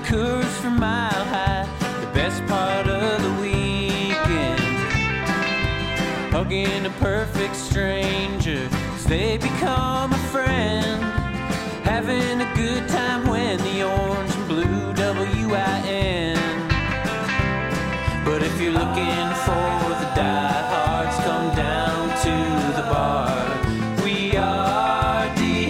Coors from Mile High, the best part of the weekend. Hugging a perfect stranger as they become a friend. Having a good time when the orange and blue WIN. But if you're looking for the diehards, come down to the bar. We are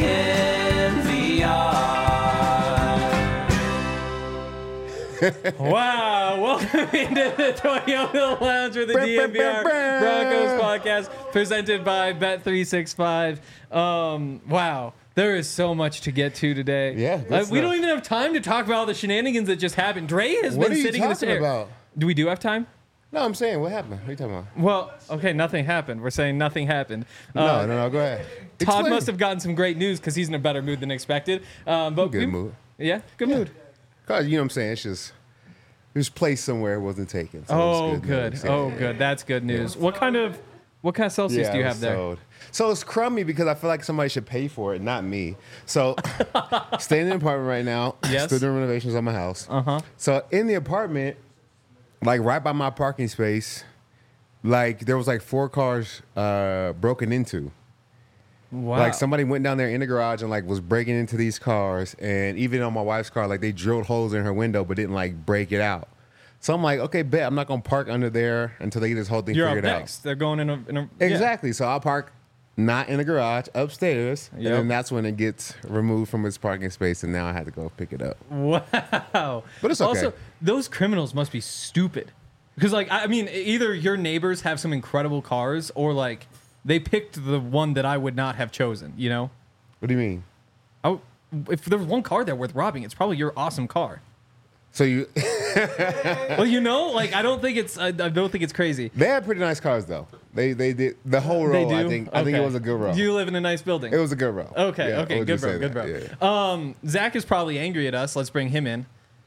DNVR. Wow, welcome into the Toyota Lounge with the DNVR Broncos podcast presented by Bet365. Wow, there is so much to get to today. Yeah, we don't even have time to talk about all the shenanigans that just happened. Dre has What been are you sitting in this talking chair. about? Do we do have time? No, I'm saying, what happened? What are you talking about? Well, okay, nothing happened. We're saying nothing happened. No, go ahead. Todd Explain. must have gotten some great news because he's in a better mood than expected. But Good mood. Yeah, good mood. Cause you know what I'm saying? It's just, there's place somewhere it wasn't taken. So Oh, it's good. news. Oh, Yeah. good. That's good news. What kind of Celsius do you it have was there? sold. So it's crummy because I feel like somebody should pay for it, not me. So staying in the apartment right now. Yes. Still doing renovations on my house. Uh-huh. So in the apartment, like right by my parking space, like there was like 4 cars broken into. Wow. Like somebody went down there in the garage and like was breaking into these cars, and even on my wife's car, like they drilled holes in her window but didn't like break it out. So I'm like, okay, bet I'm not gonna park under there until they get this whole thing You're up figured out. next. They're going in a yeah. Exactly. So I'll park not in the garage, upstairs, Yep. and then that's when it gets removed from its parking space, and now I had to go pick it up. Wow. But it's okay. Also, those criminals must be stupid. Because, like, I mean, either your neighbors have some incredible cars or, like, they picked the one that I would not have chosen, you know? What do you mean? If there was one car there worth robbing, it's probably your awesome car. So you, Well, you know, like, I don't think it's crazy. they had pretty nice cars though. They did the whole row. They do? I think it Okay. was a good row. You live in a nice building. It was a good row. Okay, Yeah, okay, we'll good just bro, say good that. bro. Yeah. Zach is probably angry at us. Let's bring him in.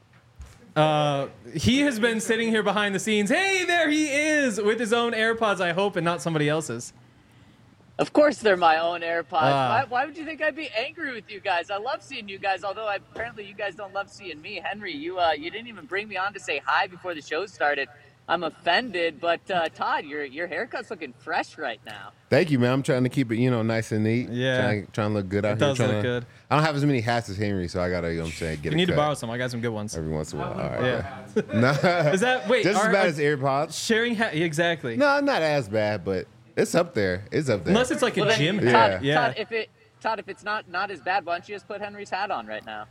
He has been sitting here behind the scenes. Hey, there he is with his own AirPods, I hope, and not somebody else's. Of course they're my own AirPods. Ah. Why would you think I'd be angry with you guys? I love seeing you guys, although apparently you guys don't love seeing me. Henry, you didn't even bring me on to say hi before the show started. I'm offended, but Todd, your haircut's looking fresh right now. Thank you, man. I'm trying to keep it, nice and neat. Yeah. Trying to look good out It here. does look good. I don't have as many hats as Henry, so I gotta, get You a need to cut borrow some. I got some good ones. every once in a while. All right. Yeah. No. Is that wait? Just as are- bad are as AirPods? sharing exactly. No, not as bad, but it's up there. It's up there. Unless it's like a Well, then, gym Yeah. hat. Yeah. Todd, if it's not as bad, why don't you just put Henry's hat on right now?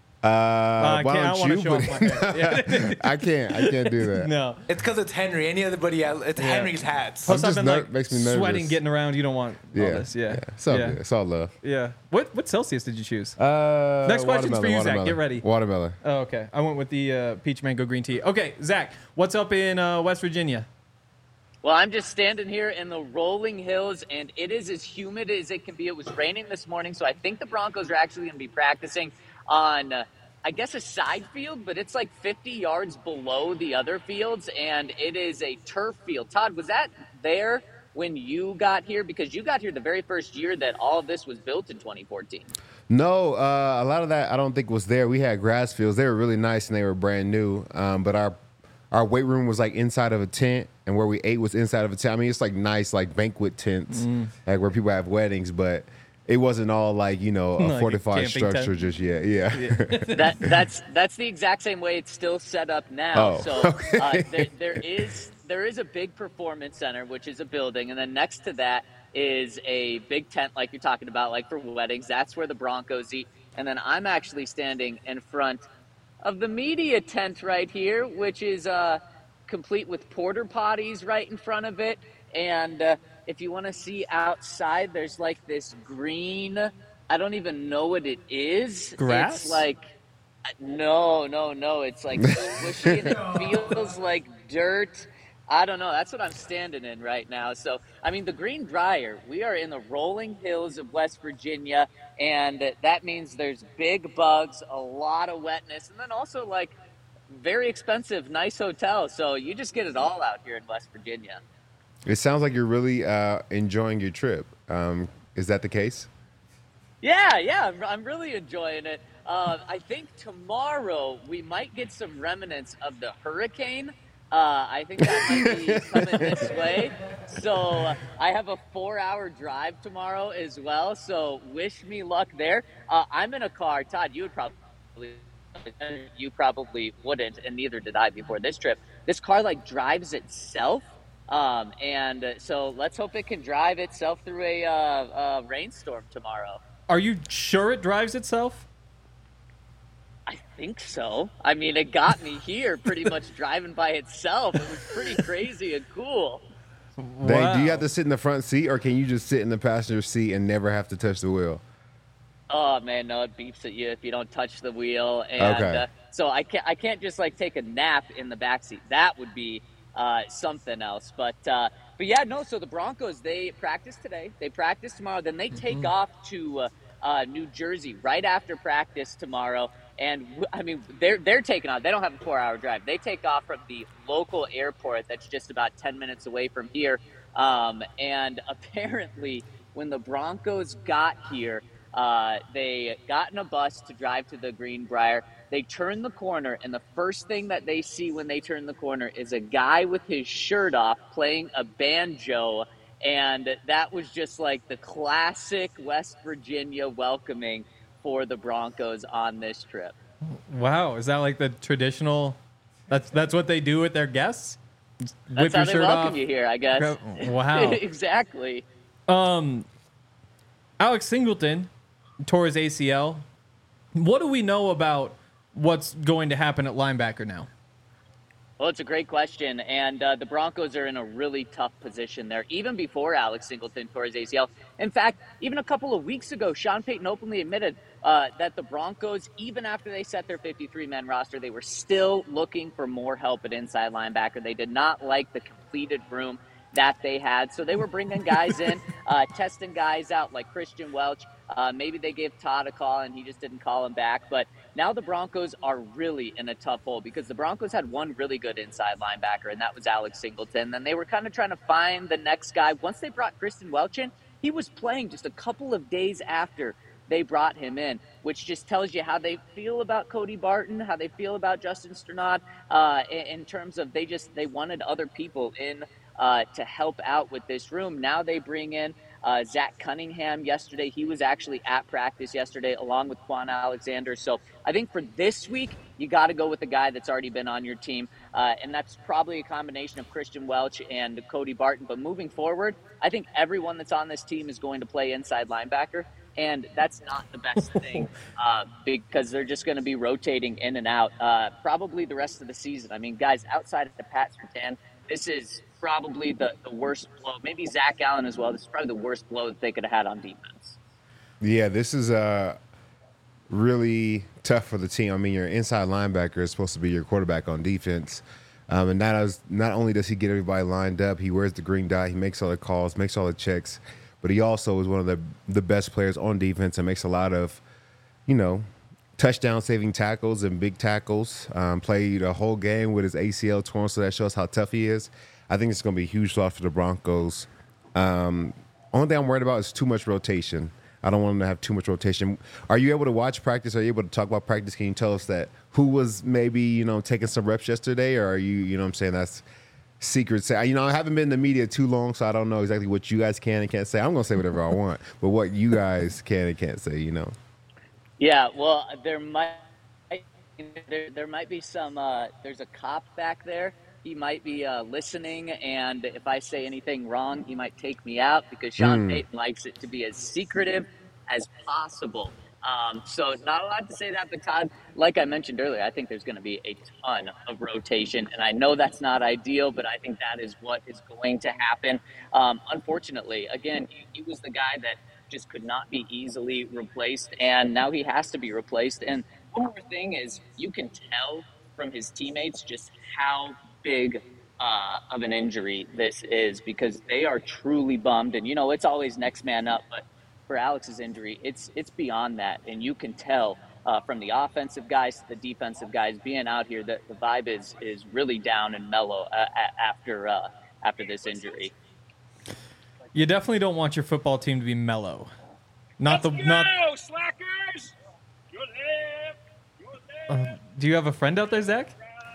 Why I don't don't want to you show put off my hair. Yeah. I can't do that. No. It's because it's Henry. It's Henry's hats. Plus, I'm I've just been like makes me nervous. sweating, getting around. You don't want all this. Yeah. It's all yeah. good. It's all love. Yeah. What Celsius did you choose? Next question's for you, Zach. Get ready. Watermelon. Oh, okay. I went with the peach mango green tea. Okay, Zach, what's up in West Virginia? Well, I'm just standing here in the rolling hills, and it is as humid as it can be. It was raining this morning, so I think the Broncos are actually going to be practicing on, I guess, a side field, but it's like 50 yards below the other fields, and it is a turf field. Todd, was that there when you got here? Because you got here the very first year that all of this was built in 2014. No, a lot of that I don't think was there. We had grass fields. They were really nice and they were brand new. But our weight room was like inside of a tent, and where we ate was inside of a tent. I mean, it's like nice, like banquet tents, like where people have weddings, but it wasn't all like, a Like a fortified camping tent. structure just yet. Yeah. That's the exact same way it's still set up now. Oh, So okay. there is a big performance center, which is a building, and then next to that is a big tent, like you're talking about, like for weddings. That's where the Broncos eat. And then I'm actually standing in front of the media tent right here, which is complete with porter potties right in front of it. And if you want to see outside, there's like this green, I don't even know what it is. Grass? It's like, no. It's like squishy and it feels like dirt. I don't know. That's what I'm standing in right now. So, I mean, the Green Dryer, we are in the rolling hills of West Virginia, and that means there's big bugs, a lot of wetness, and then also, like, very expensive, nice hotels. So you just get it all out here in West Virginia. It sounds like you're really enjoying your trip. Is that the case? Yeah, I'm really enjoying it. I think tomorrow we might get some remnants of the hurricane. I think that might be coming this way. So I have a 4-hour drive tomorrow as well. So wish me luck there. I'm in a car. Todd, you probably wouldn't, and neither did I before this trip. This car like drives itself. And so let's hope it can drive itself through a rainstorm tomorrow. Are you sure it drives itself? I think so. I mean, it got me here pretty much driving by itself. It was pretty crazy and cool. Do you have to sit in the front seat, or can you just sit in the passenger seat and never have to touch the wheel? Oh man, no, it beeps at you if you don't touch the wheel, and Okay. So I can't just like take a nap in the back seat. That would be something else. But yeah, no. So the Broncos, they practice today. They practice tomorrow. Then they take off to New Jersey right after practice tomorrow. And I mean, they're taking off. They don't have a 4-hour drive. They take off from the local airport that's just about 10 minutes away from here. And apparently, when the Broncos got here, they got in a bus to drive to the Greenbrier. They turn the corner, and the first thing that they see when they turn the corner is a guy with his shirt off playing a banjo. And that was just like the classic West Virginia welcoming for the Broncos on this trip. Wow, is that like the traditional? That's what they do with their guests. That's how they welcome you here, I guess. Wow. Exactly. Alex Singleton tore his ACL. What do we know about what's going to happen at linebacker now? Well, it's a great question, and the Broncos are in a really tough position there, even before Alex Singleton tore his ACL. In fact, even a couple of weeks ago, Sean Payton openly admitted that the Broncos, even after they set their 53-man roster, they were still looking for more help at inside linebacker. They did not like the completed room that they had, so they were bringing guys in, testing guys out like Christian Welch. Maybe they gave Todd a call and he just didn't call him back. But now the Broncos are really in a tough hole because the Broncos had one really good inside linebacker, and that was Alex Singleton. Then they were kind of trying to find the next guy. Once they brought Christian Welch in, he was playing just a couple of days after they brought him in, which just tells you how they feel about Cody Barton, how they feel about Justin Strnad, in terms of they wanted other people in to help out with this room. Now they bring in Zach Cunningham yesterday. He was actually at practice yesterday along with Quan Alexander. So I think for this week, you got to go with the guy that's already been on your team. And that's probably a combination of Christian Welch and Cody Barton. But moving forward, I think everyone that's on this team is going to play inside linebacker. And that's not the best thing because they're just going to be rotating in and out probably the rest of the season. I mean, guys, outside of the Pat Surtain, this is probably the worst blow. Maybe Zach Allen as well. This is probably the worst blow that they could have had on defense. Yeah, this is really tough for the team. I mean, your inside linebacker is supposed to be your quarterback on defense. And not only does he get everybody lined up, he wears the green dot, he makes all the calls, makes all the checks, but he also is one of the best players on defense and makes a lot of, touchdown-saving tackles and big tackles. Played a whole game with his ACL torn, so that shows how tough he is. I think it's going to be a huge loss for the Broncos. Only thing I'm worried about is too much rotation. I don't want them to have too much rotation. Are you able to watch practice? Are you able to talk about practice? Can you tell us that who was maybe, taking some reps yesterday? Or are you what I'm saying, that's secret? I haven't been in the media too long, so I don't know exactly what you guys can and can't say. I'm going to say whatever I want, but what you guys can and can't say, Yeah, well, there might be some, there's a cop back there. He might be listening, and if I say anything wrong, he might take me out because Sean Payton likes it to be as secretive as possible. So not allowed to say that, but Todd, like I mentioned earlier, I think there's going to be a ton of rotation, and I know that's not ideal, but I think that is what is going to happen. Unfortunately, again, he was the guy that just could not be easily replaced, and now he has to be replaced. And one more thing is you can tell from his teammates just how big of an injury this is because they are truly bummed. And, it's always next man up, but for Alex's injury, it's beyond that. And you can tell from the offensive guys to the defensive guys being out here that the vibe is really down and mellow after this injury. You definitely don't want your football team to be mellow. Slackers! Good Do you have a friend out there, Zach?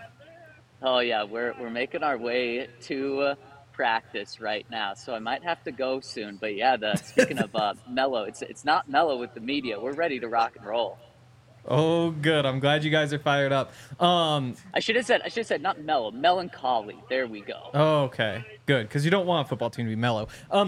Oh yeah, we're making our way to practice right now, so I might have to go soon. But yeah, speaking of mellow, it's not mellow with the media. We're ready to rock and roll. Oh, good. I'm glad you guys are fired up. I should have said not mellow, melancholy. There we go. Oh, okay, good, because you don't want a football team to be mellow.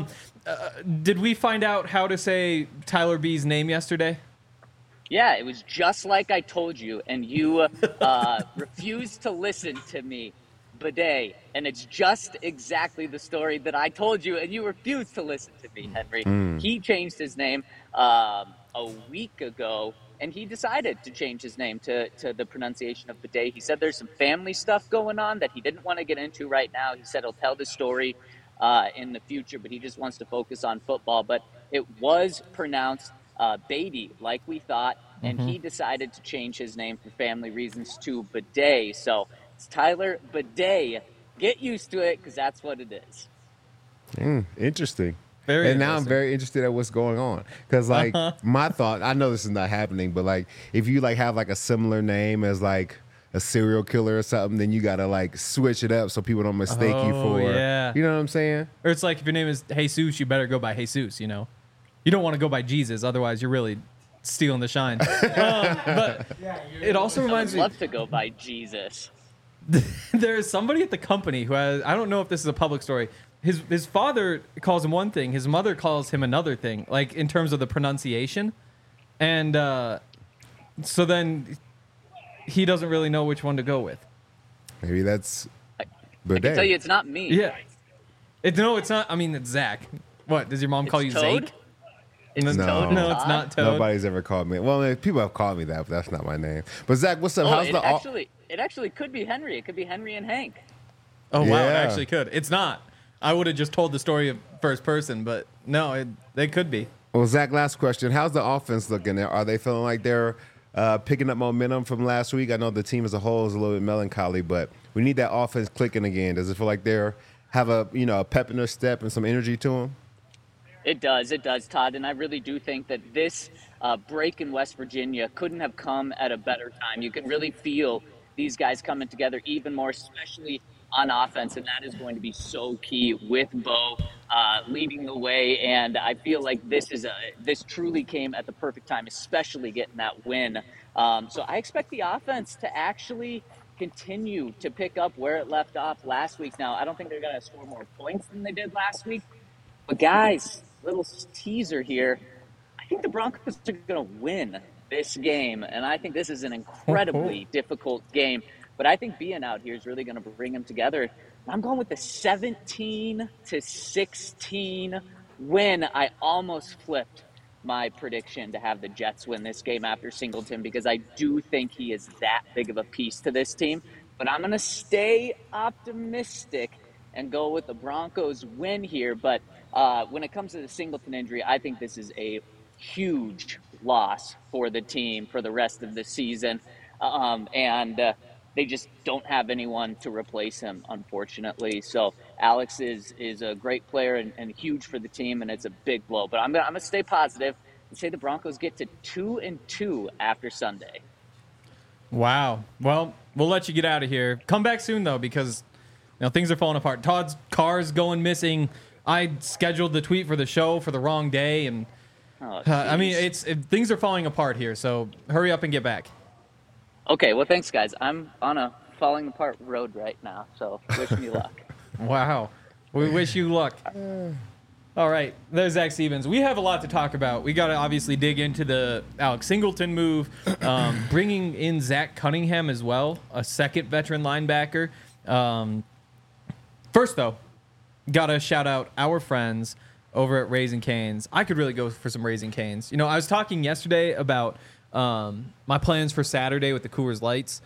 Did we find out how to say Tyler B's name yesterday? Yeah, it was just like I told you, and you refused to listen to me, Bidet. And it's just exactly the story that I told you, and you refused to listen to me, Henry. He changed his name a week ago, and he decided to change his name to the pronunciation of Bidet. He said there's some family stuff going on that he didn't want to get into right now. He said he'll tell the story in the future, but he just wants to focus on football. But it was pronounced Beatty, like we thought, and he decided to change his name for family reasons to Bidet. So it's Tyler Bidet. Get used to it, because that's what it is. Interesting. Very and now I'm interesting. very interested at what's going on, because like my thought, I know this is not happening, but like if you like have like a similar name as like a serial killer or something, then you gotta like switch it up so people don't mistake you Oh, for, yeah. you know what I'm saying? Or it's like if your name is Jesus, you better go by Jesus, you know? You don't want to go by Jesus, otherwise you're really stealing the shine. But it also I reminds would me, love to go by Jesus. there's somebody at the company who has, I don't know if this is a public story, his father calls him one thing, his mother calls him another thing, like in terms of the pronunciation. And so then he doesn't really know which one to go with. Maybe that's I can tell you it's not me. Yeah. No, it's not. I mean, it's Zach. What, does your mom call you It's Toad? Zake? It's No. Toad. No, it's not Toad. Nobody's ever called me. Well, people have called me that, but that's not my name. But Zach, what's up? Oh, How's it actually could be Henry. It could be Henry and Hank. Oh, wow, it Yeah. actually could. It's not. I would have just told the story of first person, but no, they could be. Well, Zach, last question. How's the offense looking? Are they feeling like they're picking up momentum from last week? I know the team as a whole is a little bit melancholy, but we need that offense clicking again. Does it feel like they're have a pep in their step and some energy to them? It does, Todd. And I really do think that this break in West Virginia couldn't have come at a better time. You can really feel these guys coming together even more, especially on offense, and that is going to be so key with Bo leading the way. And I feel like this truly came at the perfect time, especially getting that win. So I expect the offense to actually continue to pick up where it left off last week. Now, I don't think they're going to score more points than they did last week, but guys, little teaser here. I think the Broncos are going to win this game, and I think this is an incredibly difficult game. But I think being out here is really going to bring them together. I'm going with the 17-16 win. I almost flipped my prediction to have the Jets win this game after Singleton, because I do think he is that big of a piece to this team. But I'm going to stay optimistic and go with the Broncos win here. But when it comes to the Singleton injury, I think this is a huge loss for the team for the rest of the season. They just don't have anyone to replace him, unfortunately. So Alex is a great player and huge for the team, and it's a big blow. But I'm gonna stay positive and say the Broncos get to 2-2 after Sunday. Wow. Well, we'll let you get out of here. Come back soon, though, because things are falling apart. Todd's car's going missing. I scheduled the tweet for the show for the wrong day, and I mean, things are falling apart here. So hurry up and get back. Okay, well, thanks, guys. I'm on a falling apart road right now, so wish me luck. Wow. We wish you luck. All right. There's Zach Stevens. We have a lot to talk about. We got to obviously dig into the Alex Singleton move, bringing in Zach Cunningham as well, a second veteran linebacker. First, though, got to shout out our friends over at Raising Cane's. I could really go for some Raising Cane's. I was talking yesterday about my plans for Saturday with the Coors Lights.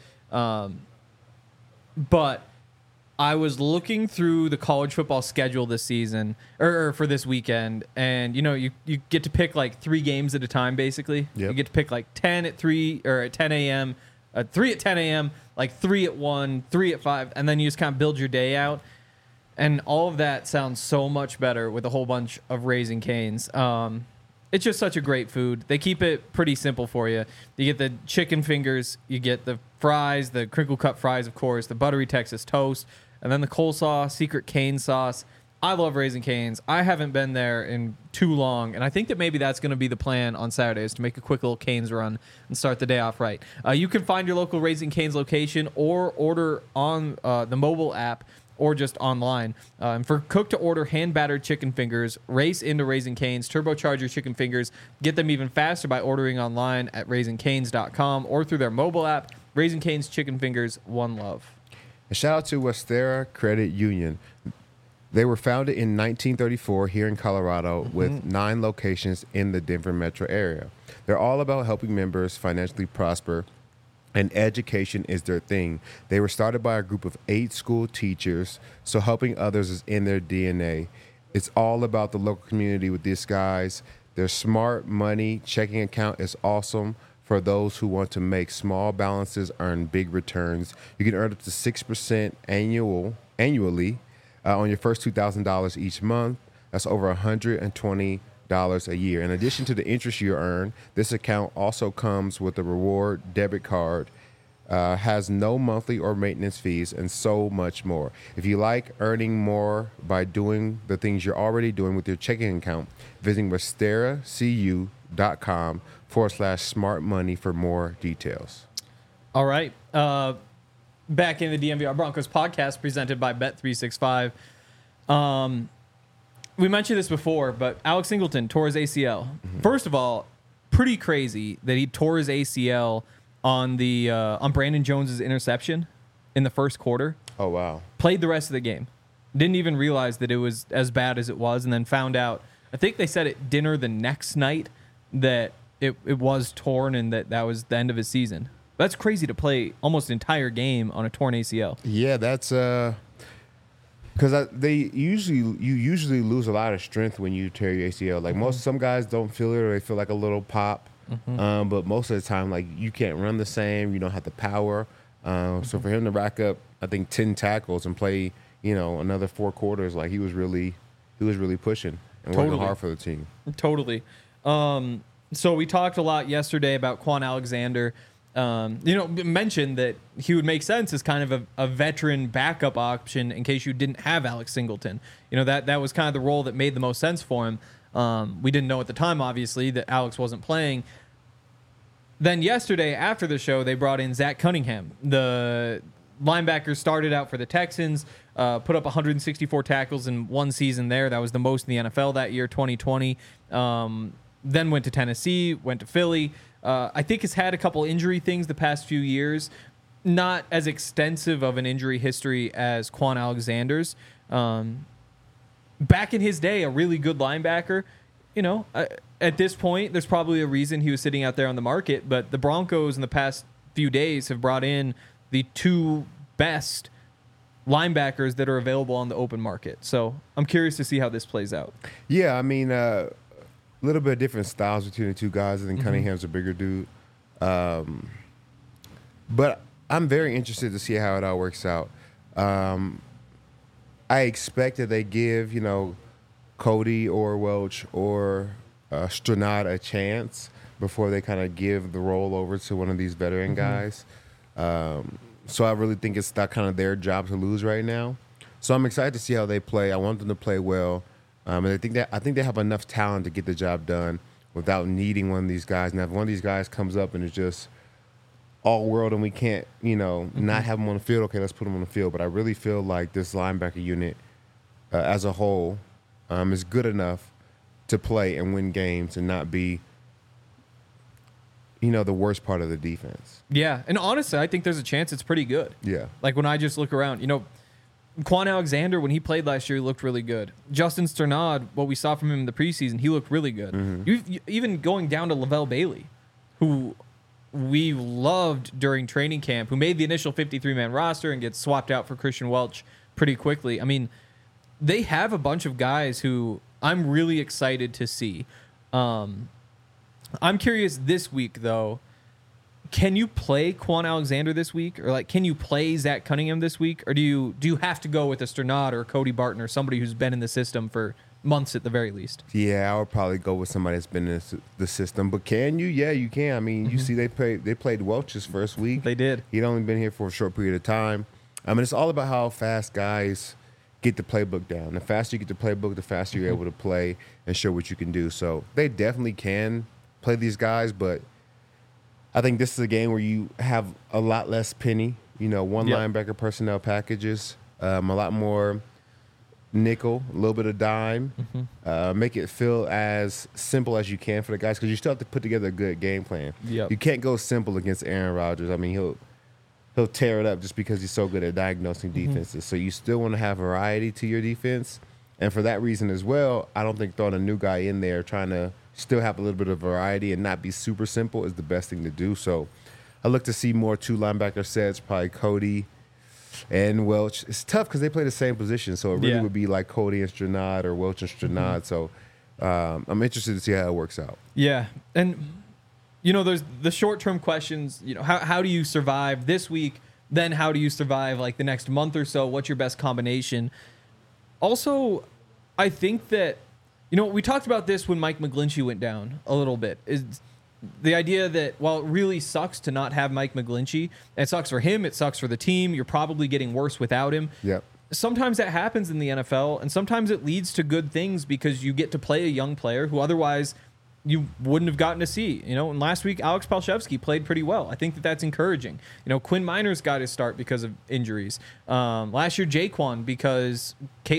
But I was looking through the college football schedule this season, or for this weekend, and you get to pick like 3 games at a time, basically. Yep. You get to pick like 10 at 3 or at 10 a.m., 3 at 10 a.m., like 3 at 1, 3 at 5, and then you just kind of build your day out. And all of that sounds so much better with a whole bunch of Raising Cane's. It's just such a great food. They keep it pretty simple for you. You get the chicken fingers, you get the fries, the crinkle cut fries, of course, the buttery Texas toast, and then the coleslaw, secret cane sauce. I love Raising Cane's. I haven't been there in too long, and I think that maybe that's going to be the plan on Saturdays, to make a quick little Cane's run and start the day off right. You can find your local Raising Cane's location or order on the mobile app or just online. For cook-to-order hand-battered chicken fingers, race into Raising Cane's, turbocharge your chicken fingers, get them even faster by ordering online at raisingcanes.com or through their mobile app. Raising Cane's chicken fingers, one love. A shout out to Westera Credit Union. They were founded in 1934 here in Colorado with 9 locations in the Denver metro area. They're all about helping members financially prosper, and education is their thing. They were started by a group of 8 school teachers, so helping others is in their DNA. It's all about the local community with these guys. Their smart money checking account is awesome for those who want to make small balances earn big returns. You can earn up to 6% annually on your first $2,000 each month. That's over $120 a year. In addition to the interest you earn, this account also comes with a reward debit card, has no monthly or maintenance fees, and so much more. If you like earning more by doing the things you're already doing with your checking account, visit westeracu.com/smart money for more details. All right. Back in the DNVR Broncos podcast presented by Bet365. We mentioned this before, but Alex Singleton tore his ACL. First of all, pretty crazy that he tore his ACL on Brandon Jones's interception in the first quarter. Oh, wow. Played the rest of the game. Didn't even realize that it was as bad as it was, and then found out, I think they said at dinner the next night, that it was torn and that was the end of his season. That's crazy to play almost an entire game on a torn ACL. Yeah, that's because you usually lose a lot of strength when you tear your ACL. Like some guys don't feel it, or they feel like a little pop. But most of the time, like, you can't run the same. You don't have the power. So for him to rack up, I think 10 tackles and play, another 4 quarters, like he was really pushing and working hard for the team. Totally. So we talked a lot yesterday about Quan Alexander. Mentioned that he would make sense as kind of a veteran backup option in case you didn't have Alex Singleton. That was kind of the role that made the most sense for him. We didn't know at the time, obviously, that Alex wasn't playing. Then yesterday, after the show, they brought in Zach Cunningham. The linebacker started out for the Texans, put up 164 tackles in one season there. That was the most in the NFL that year, 2020. Then went to Tennessee, went to Philly. I think has had a couple injury things the past few years. Not as extensive of an injury history as Quan Alexander's. Back in his day, a really good linebacker. At this point, there's probably a reason he was sitting out there on the market, but the Broncos in the past few days have brought in the 2 best linebackers that are available on the open market. So I'm curious to see how this plays out. Yeah, I mean, a little bit of different styles between the 2 guys. I think Cunningham's a bigger dude. But I'm very interested to see how it all works out. I expect that they give, Cody or Welch or Stranad a chance before they kind of give the role over to one of these veteran guys. So I really think it's not kind of their job to lose right now. So I'm excited to see how they play. I want them to play well. And I think they have enough talent to get the job done without needing one of these guys. Now, if one of these guys comes up and is just all world and we can't, not have them on the field, okay, let's put them on the field. But I really feel like this linebacker unit as a whole is good enough to play and win games and not be, the worst part of the defense. Yeah, and honestly, I think there's a chance it's pretty good. Yeah. Like when I just look around, Quan Alexander, when he played last year, he looked really good. Justin Strnad, what we saw from him in the preseason, he looked really good. Even going down to Lavelle Bailey, who we loved during training camp, who made the initial 53-man roster and gets swapped out for Christian Welch pretty quickly. I mean, they have a bunch of guys who I'm really excited to see. I'm curious this week, though. can you play Quan Alexander this week, or like can you play Zach Cunningham this week, or do you have to go with a Sternad or Cody Barton or somebody who's been in the system for months at the very least? Yeah, I would probably go with somebody that's been in the system. But can you? Yeah, you can. I mean, you see they played Welch's first week. They did. He'd only been here for a short period of time. I mean, it's all about how fast guys get the playbook down. The faster you get the playbook, the faster you're able to play and show what you can do. So they definitely can play these guys, but I think this is a game where you have a lot less penny, one linebacker personnel packages, a lot more nickel, a little bit of dime. Make it feel as simple as you can for the guys, because you still have to put together a good game plan. Yep. You can't go simple against Aaron Rodgers. I mean, he'll tear it up just because he's so good at diagnosing defenses. So you still want to have variety to your defense. And for that reason as well, I don't think throwing a new guy in there, trying to still have a little bit of variety and not be super simple, is the best thing to do. So I look to see more 2 linebacker sets, probably Cody and Welch. It's tough because they play the same position. So it really would be like Cody and Sternad or Welch and Sternad. So I'm interested to see how it works out. Yeah. And, there's the short-term questions. How do you survive this week? Then how do you survive like the next month or so? What's your best combination? Also, I think that, we talked about this when Mike McGlinchey went down a little bit, is the idea that while it really sucks to not have Mike McGlinchey, it sucks for him, it sucks for the team, you're probably getting worse without him. Yep. Sometimes that happens in the NFL, and sometimes it leads to good things because you get to play a young player who otherwise you wouldn't have gotten to see. And last week, Alex Palshevsky played pretty well. I think that that's encouraging. Quinn Miners got his start because of injuries. Last year, Jaquan, because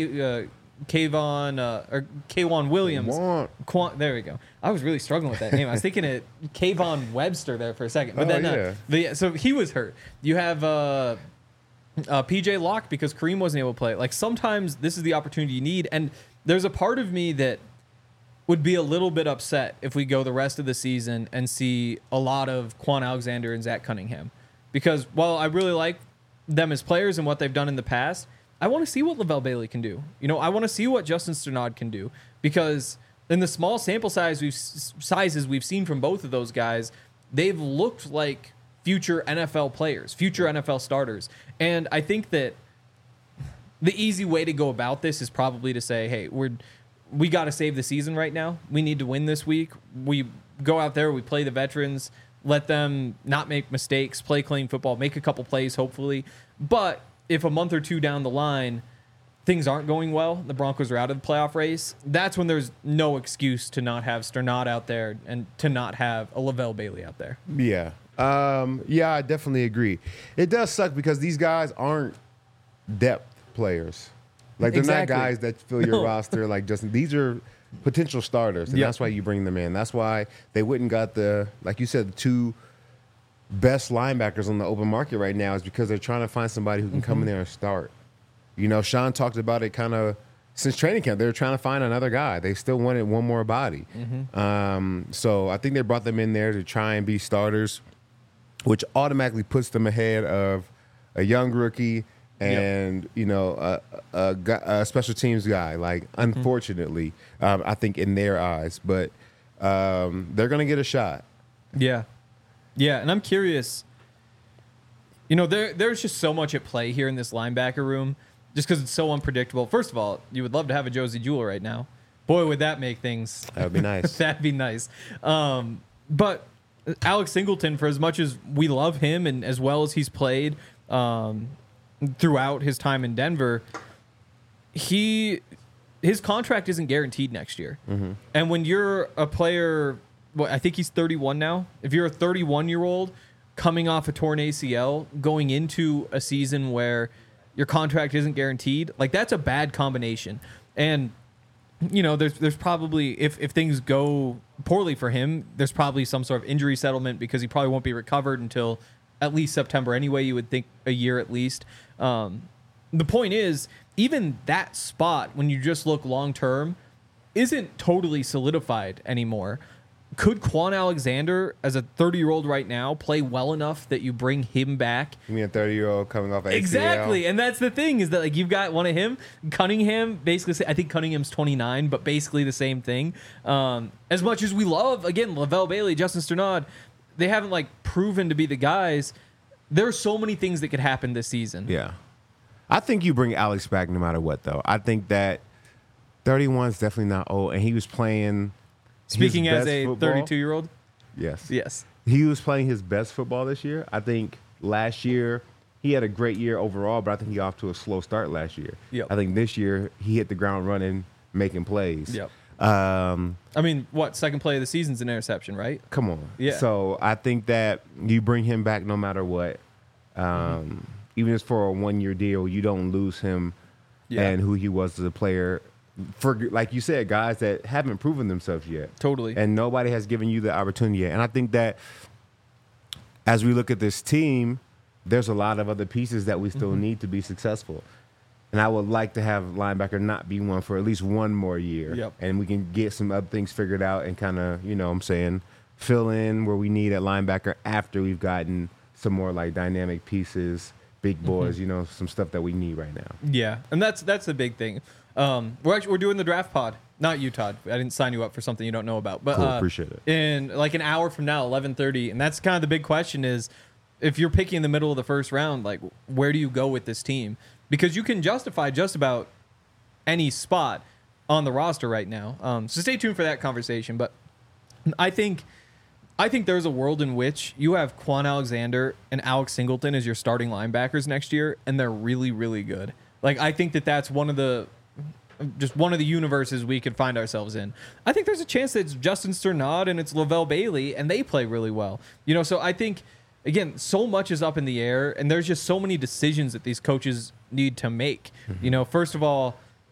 Kayvon Williams. There we go. I was really struggling with that name. I was thinking it Kayvon Webster there for a second. But so he was hurt. You have PJ Locke because Kareem wasn't able to play. Like, sometimes this is the opportunity you need. And there's a part of me that would be a little bit upset if we go the rest of the season and see a lot of Quan Alexander and Zach Cunningham. Because while I really like them as players and what they've done in the past, I want to see what Lavelle Bailey can do. I want to see what Justin Sternad can do, because in the small sample sizes we've seen from both of those guys, they've looked like future NFL players, future NFL starters. And I think that the easy way to go about this is probably to say, hey, we got to save the season right now. We need to win this week. We go out there, we play the veterans, let them not make mistakes, play clean football, make a couple plays, hopefully. But if a month or two down the line things aren't going well, the Broncos are out of the playoff race, that's when there's no excuse to not have Sternad out there and to not have a Lavelle Bailey out there. Yeah. I definitely agree. It does suck because these guys aren't depth players. Like, they're not guys that fill your roster. Like, these are potential starters, and that's why you bring them in. That's why they wouldn't got like you said, the 2 best linebackers on the open market right now, is because they're trying to find somebody who can come in there and start. Sean talked about it kind of since training camp. They were trying to find another guy. They still wanted one more body. So I think they brought them in there to try and be starters, which automatically puts them ahead of a young rookie and a special teams guy. Like, unfortunately, I think in their eyes, but they're gonna get a shot. Yeah, and I'm curious. There's just so much at play here in this linebacker room, just because it's so unpredictable. First of all, you would love to have a Josie Jewell right now. Boy, would that make things. That would be nice. That'd be nice. But Alex Singleton, for as much as we love him and as well as he's played throughout his time in Denver, his contract isn't guaranteed next year. And when you're a player, I think he's 31 now. If you're a 31-year-old coming off a torn ACL, going into a season where your contract isn't guaranteed, like, that's a bad combination. And there's probably, if things go poorly for him, there's probably some sort of injury settlement, because he probably won't be recovered until at least September anyway. You would think a year at least. The point is, even that spot, when you just look long term, isn't totally solidified anymore. Could Quan Alexander, as a 30-year-old right now, play well enough that you bring him back? You mean a 30-year-old coming off ACL? Exactly, and that's the thing, is that, like, you've got one of him, Cunningham, basically, I think Cunningham's 29, but basically the same thing. As much as we love, again, Lavelle Bailey, Justin Sternad, like proven to be the guys. There are so many things that could happen this season. Yeah. I think you bring Alex back no matter what, though. I think that 31 is definitely not old, and he was playing. Speaking his as best a football. 32-year-old. Yes. Yes. He was playing his best football this year. I think last year he had a great year overall, but I think he got off to a slow start last year. Yep. I think this year he hit the ground running, making plays. Yep. I Um, mean, second play of the season's an interception, right? Come on. Yeah. So I think that you bring him back no matter what. Even if it's for a 1-year deal, you don't lose him and who he was as a player. For, like you said, guys that haven't proven themselves yet. Totally. And nobody has given you the opportunity yet. And I think that as we look at this team, there's a lot of other pieces that we still need to be successful. And I would like to have linebacker not be one for at least one more year. Yep. And we can get some other things figured out and kind of, you know what I'm saying, fill in where we need at linebacker after we've gotten some more like dynamic pieces, big boys, you know, some stuff that we need right now. Yeah, and that's the big thing. We're doing the draft pod. Not you, Todd. I didn't sign you up for something you don't know about. But Cool, appreciate it. In like an hour from now, 11:30, and that's kind of the big question is, if you're picking in the middle of the first round, like where do you go with this team? Because you can justify just about any spot on the roster right now. So stay tuned for that conversation. But I think there's a world in which you have Quan Alexander and Alex Singleton as your starting linebackers next year, and they're really, really good. Like, I think that's one of the universes we could find ourselves in. I think there's a chance that it's Justin Sternad and it's Lavelle Bailey, and they play really well. You know, so I think, again, so much is up in the air, and there's just so many decisions that these coaches need to make. You know, first of all,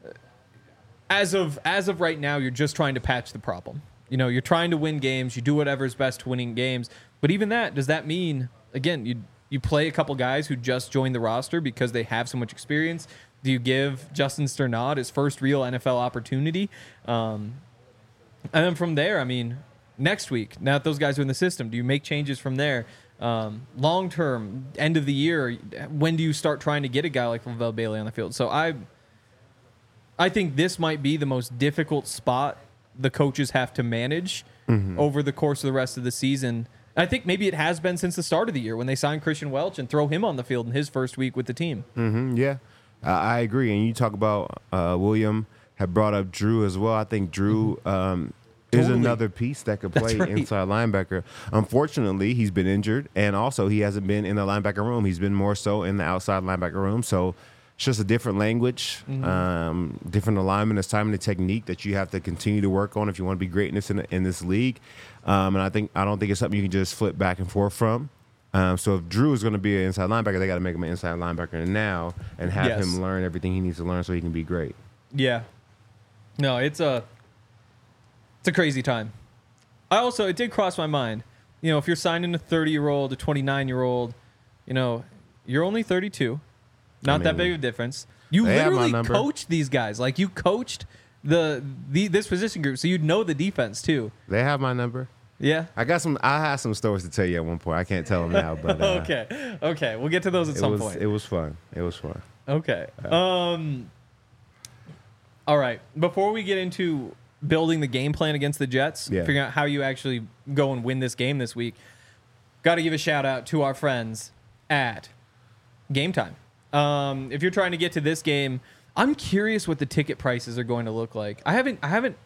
as of right now, you're just trying to patch the problem. You know, you're trying to win games. You do whatever's best to winning games. But even that, does that mean, again, you play a couple guys who just joined the roster because they have so much experience? Do you give Justin Sternad his first real NFL opportunity? And then from there, I mean, next week, now that those guys are in the system, do you make changes from there? Long term, end of the year, when do you start trying to get a guy like Lavelle Bailey on the field? So I think this might be the most difficult spot the coaches have to manage over the course of the rest of the season. I think maybe it has been since the start of the year when they signed Christian Welch and throw him on the field in his first week with the team. Yeah, I agree. And you talk about William had brought up Drew as well. I think Drew is another piece that could play inside linebacker. Unfortunately, he's been injured, and also he hasn't been in the linebacker room. He's been more so in the outside linebacker room. So it's just a different language, different alignment, assignment, and technique that you have to continue to work on if you want to be greatness in this league. And I don't think it's something you can just flip back and forth from. So if Drew is going to be an inside linebacker, they got to make him an inside linebacker now and have him learn everything he needs to learn so he can be great. Yeah. No, it's a crazy time. It did cross my mind. You know, if you're signing a 30-year-old, a 29-year-old, you know, you're only 32. Not that big of a difference. You literally coached these guys. Like, you coached this position group, so you'd know the defense too. They have my number. Yeah. I have some stories to tell you at one point. I can't tell them now, but okay. We'll get to those at some point. It was fun. Okay. All right. Before we get into building the game plan against the Jets, figuring out how you actually go and win this game this week, got to give a shout out to our friends at Game Time. If you're trying to get to this game, I'm curious what the ticket prices are going to look like. I haven't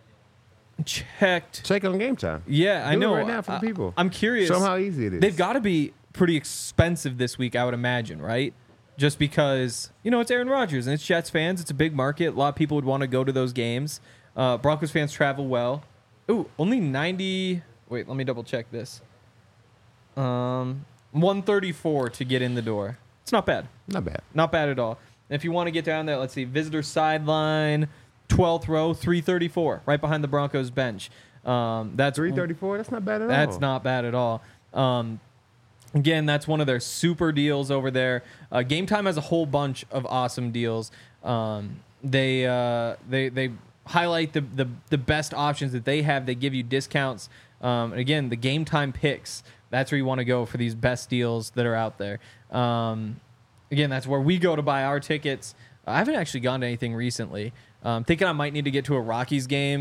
checked. Check on Game Time. Yeah, I know. Right now for the people. I'm curious. Show them how easy it is. They've got to be pretty expensive this week, I would imagine, right? Just because, you know, it's Aaron Rodgers and it's Jets fans. It's a big market. A lot of people would want to go to those games. Broncos fans travel well. Ooh, only 90. Wait, let me double check this. 134 to get in the door. It's not bad. Not bad at all. If you want to get down there, let's see, visitor sideline, 12th row, 334, right behind the Broncos bench. That's 334. That's not bad at all. That's not bad at all. Again, that's one of their super deals over there. Game Time has a whole bunch of awesome deals. They highlight the best options that they have. They give you discounts. Again, the Game Time picks. That's where you want to go for these best deals that are out there. Again, that's where we go to buy our tickets. I haven't actually gone to anything recently. Thinking I might need to get to a Rockies game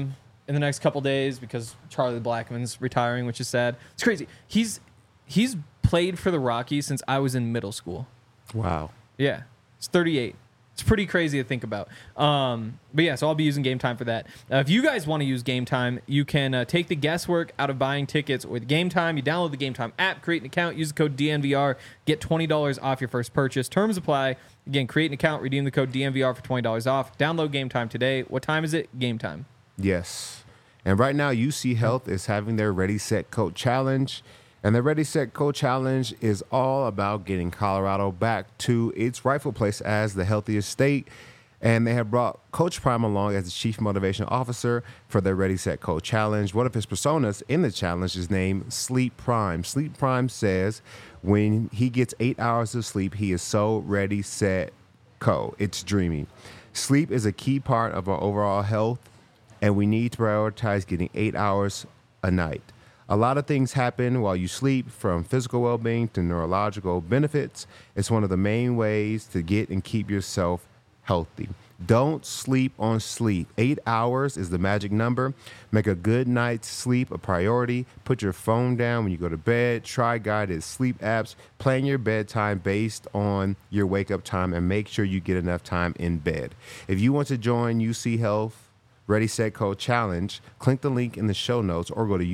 in the next couple days because Charlie Blackmon's retiring, which is sad. It's crazy. He's played for the Rockies since I was in middle school. Wow. Yeah, it's 38. It's pretty crazy to think about. But yeah, so I'll be using Game Time for that. If you guys want to use Game Time, you can take the guesswork out of buying tickets with Game Time. You download the Game Time app, create an account, use the code DNVR, get $20 off your first purchase. Terms apply. Again, create an account, redeem the code DNVR for $20 off. Download Game Time today. What time is it? Game Time. Yes. And right now, UC Health is having their Ready, Set, Coach Challenge. And the Ready, Set, Coach Challenge is all about getting Colorado back to its rightful place as the healthiest state. And they have brought Coach Prime along as the Chief Motivation Officer for their Ready, Set, Coach Challenge. One of his personas in the challenge is named Sleep Prime. Sleep Prime says when he gets 8 hours of sleep, he is so ready, set, co. It's dreamy. Sleep is a key part of our overall health, and we need to prioritize getting 8 hours a night. A lot of things happen while you sleep, from physical well-being to neurological benefits. It's one of the main ways to get and keep yourself healthy. Don't sleep on sleep. 8 hours is the magic number. Make a good night's sleep a priority. Put your phone down when you go to bed. Try guided sleep apps. Plan your bedtime based on your wake-up time, and make sure you get enough time in bed. If you want to join UC Health Ready, Set, Co Challenge, click the link in the show notes or go to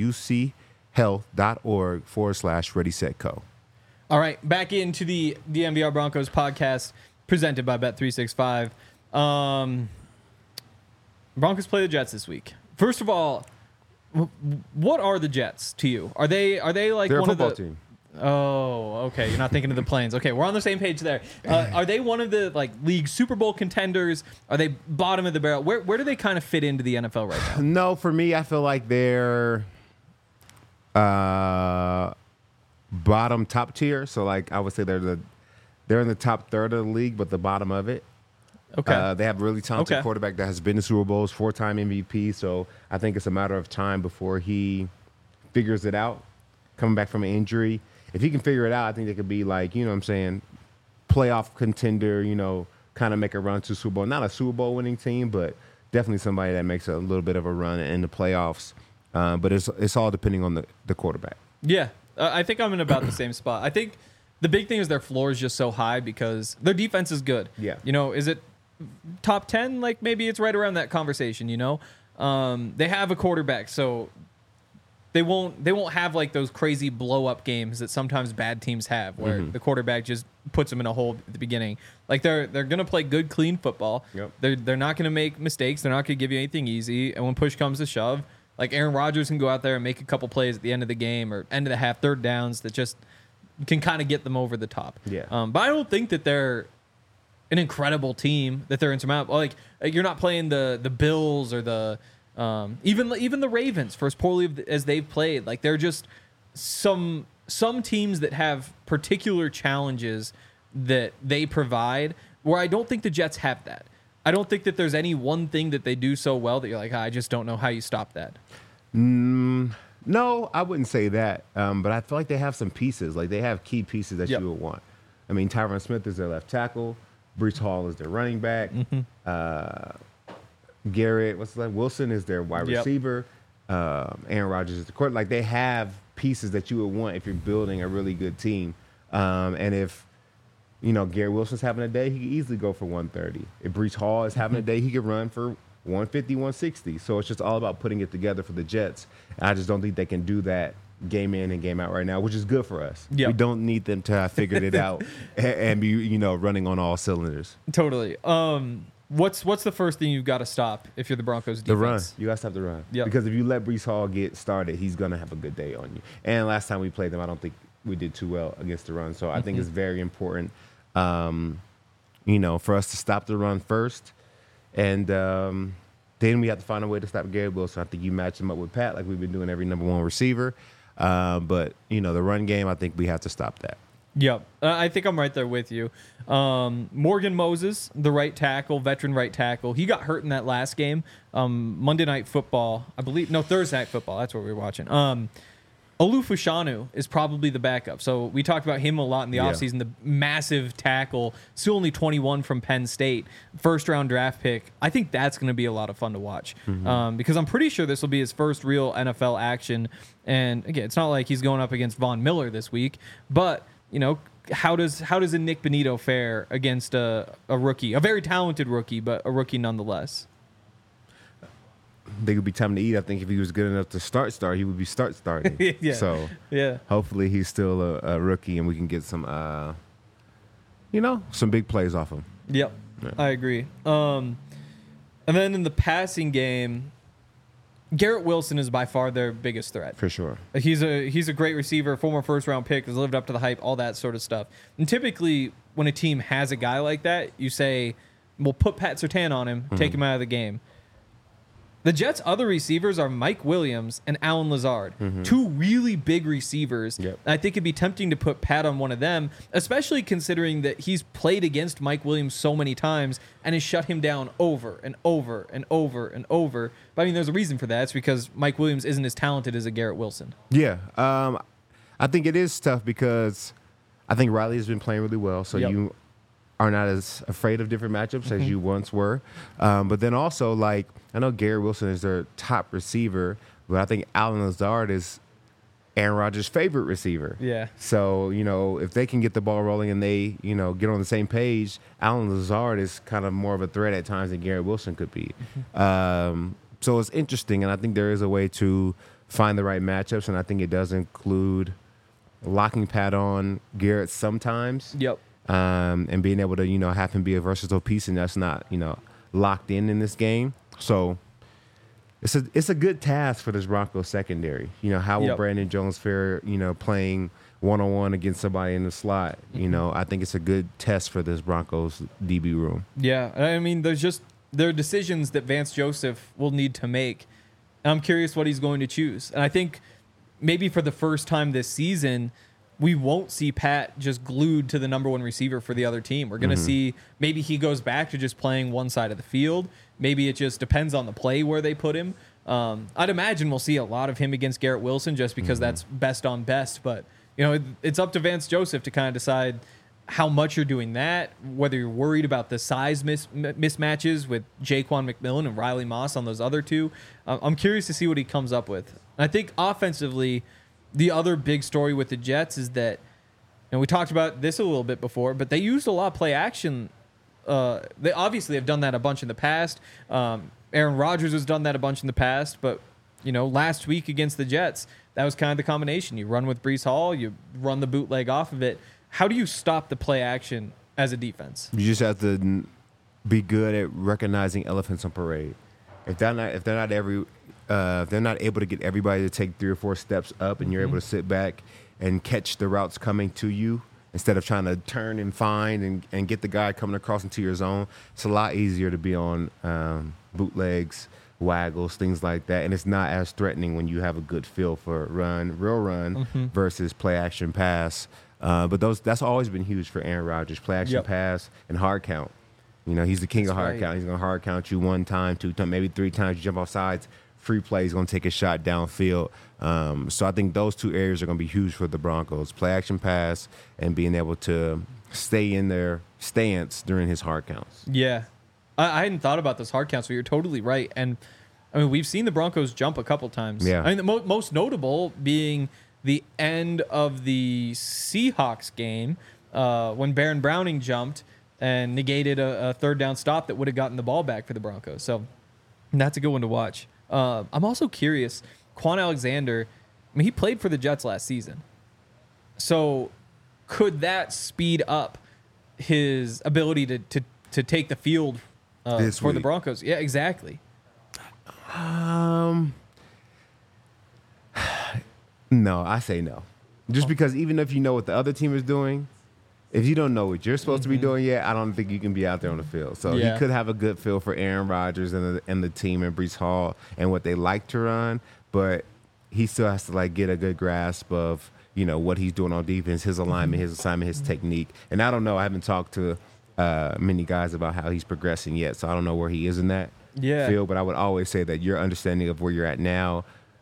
uchealth.org/Ready, Set, Co. All right, back into the DNVR Broncos podcast presented by Bet365. Broncos play the Jets this week. First of all, what are the Jets to you? Are they like They're one a football of the team. Oh, okay. You're not thinking of the Plains. Okay, we're on the same page there. Are they one of the league Super Bowl contenders? Are they bottom of the barrel? Where do they kind of fit into the NFL right now? No, for me, I feel like they're bottom top tier. So I would say they're in the top third of the league, but the bottom of it. Okay. They have a really talented quarterback that has been to Super Bowls, 4-time MVP. So I think it's a matter of time before he figures it out, coming back from an injury. If he can figure it out, I think they could be playoff contender, kind of make a run to Super Bowl. Not a Super Bowl winning team, but definitely somebody that makes a little bit of a run in the playoffs. But it's all depending on the quarterback. Yeah, I think I'm in about the same spot. I think the big thing is their floor is just so high because their defense is good. Yeah. Is it top 10? Maybe it's right around that conversation, They have a quarterback, so they won't have those crazy blow up games that sometimes bad teams have where the quarterback just puts them in a hole at the beginning. They're gonna play good, clean football. Yep. They're not gonna make mistakes. They're not gonna give you anything easy. And when push comes to shove, Aaron Rodgers can go out there and make a couple plays at the end of the game or end of the half, third downs that just can kind of get them over the top. Yeah. But I don't think that they're an incredible team, that they're insurmountable. You're not playing the Bills or the even the Ravens for as poorly as they've played. They're just some teams that have particular challenges that they provide, where I don't think the Jets have that. I don't think that there's any one thing that they do so well that you're I just don't know how you stop that. No, I wouldn't say that. But I feel like they have some pieces. They have key pieces that you would want. I mean, Tyron Smith is their left tackle. Breece Hall is their running back. Garrett, Wilson is their wide receiver. Aaron Rodgers is the quarterback. They have pieces that you would want if you're building a really good team. And if Gary Wilson's having a day, he could easily go for 130. If Breece Hall is having a day, he could run for 150, 160. So it's just all about putting it together for the Jets. And I just don't think they can do that game in and game out right now, which is good for us. Yep. We don't need them to have figured it out and be, running on all cylinders. Totally. What's the first thing you've got to stop if you're the Broncos defense? The run. You got to stop the run. Yep. Because if you let Breece Hall get started, he's going to have a good day on you. And last time we played them, I don't think we did too well against the run. So I think it's very important, for us to stop the run first. And then we have to find a way to stop Gary Wilson. I think you match him up with Pat like we've been doing every number one receiver. But, the run game, I think we have to stop that. Yep. I think I'm right there with you. Morgan Moses, the right tackle, veteran right tackle, he got hurt in that last game. Monday Night Football, I believe. No, Thursday Night Football. That's what we were watching. Olufushanu is probably the backup. So we talked about him a lot in the offseason, the massive tackle, still only 21 from Penn State, first-round draft pick. I think that's going to be a lot of fun to watch because I'm pretty sure this will be his first real NFL action. And, again, it's not like he's going up against Von Miller this week, but, you know, how does a Nick Benito fare against a rookie, a very talented rookie, but a rookie nonetheless? I think it would be time to eat. I think if he was good enough to start, he would be starting. Yeah. So hopefully he's still a rookie and we can get some, some big plays off him. Yep, yeah. I agree. And then in the passing game, Garrett Wilson is by far their biggest threat. For sure. He's a great receiver, former first-round pick, has lived up to the hype, all that sort of stuff. And typically when a team has a guy like that, you say, we'll put Pat Surtain on him, take him out of the game. The Jets' other receivers are Mike Williams and Allen Lazard, two really big receivers. Yep. I think it'd be tempting to put Pat on one of them, especially considering that he's played against Mike Williams so many times and has shut him down over and over and over and over. But I mean, there's a reason for that. It's because Mike Williams isn't as talented as a Garrett Wilson. Yeah. I think it is tough because I think Riley has been playing really well. So you are not as afraid of different matchups as you once were. But then also, like, I know Garrett Wilson is their top receiver, but I think Allen Lazard is Aaron Rodgers' favorite receiver. Yeah. So, if they can get the ball rolling and they, get on the same page, Allen Lazard is kind of more of a threat at times than Garrett Wilson could be. So it's interesting, and I think there is a way to find the right matchups, and I think it does include locking Pat on Garrett sometimes. Yep. And being able to, have him be a versatile piece, and that's not, locked in this game. So it's a good task for this Broncos secondary. How will Brandon Jones fare, playing one-on-one against somebody in the slot? I think it's a good test for this Broncos DB room. Yeah, I mean, there are decisions that Vance Joseph will need to make. And I'm curious what he's going to choose. And I think maybe for the first time this season, we won't see Pat just glued to the number one receiver for the other team. We're going to see maybe he goes back to just playing one side of the field. Maybe it just depends on the play where they put him. I'd imagine we'll see a lot of him against Garrett Wilson just because that's best on best. But, it's up to Vance Joseph to kind of decide how much you're doing that, whether you're worried about the size mismatches with Jaquan McMillan and Riley Moss on those other two. I'm curious to see what he comes up with. And I think offensively, the other big story with the Jets is that, and we talked about this a little bit before, but they used a lot of play action. They obviously have done that a bunch in the past. Aaron Rodgers has done that a bunch in the past, but last week against the Jets, that was kind of the combination. You run with Breece Hall, you run the bootleg off of it. How do you stop the play action as a defense? You just have to be good at recognizing elephants on parade. If they're not able to get everybody to take 3 or 4 steps up, and you're able to sit back and catch the routes coming to you instead of trying to turn and find and get the guy coming across into your zone, it's a lot easier to be on bootlegs, waggles, things like that. And it's not as threatening when you have a good feel for real run versus play action pass. But that's always been huge for Aaron Rodgers, play action pass and hard count. He's the king of hard count. He's going to hard count you 1 time, 2 times, maybe 3 times. You jump off sides, free play, he's going to take a shot downfield. So I think those 2 areas are going to be huge for the Broncos, play action pass and being able to stay in their stance during his hard counts. Yeah. I hadn't thought about those hard counts, but you're totally right. And, I mean, we've seen the Broncos jump a couple times. Yeah. I mean, the most notable being the end of the Seahawks game when Baron Browning jumped and negated a 3rd down stop that would have gotten the ball back for the Broncos. So that's a good one to watch. I'm also curious, Quan Alexander, I mean, he played for the Jets last season. So could that speed up his ability to take the field for the Broncos? Yeah, exactly. No, I say no. Just because even if you know what the other team is doing, if you don't know what you're supposed to be doing yet, I don't think you can be out there on the field. So he could have a good feel for Aaron Rodgers and the team and Breece Hall and what they like to run, but he still has to get a good grasp of what he's doing on defense, his alignment, his assignment, his technique. And I don't know. I haven't talked to many guys about how he's progressing yet, so I don't know where he is in that field. But I would always say that your understanding of where you're at now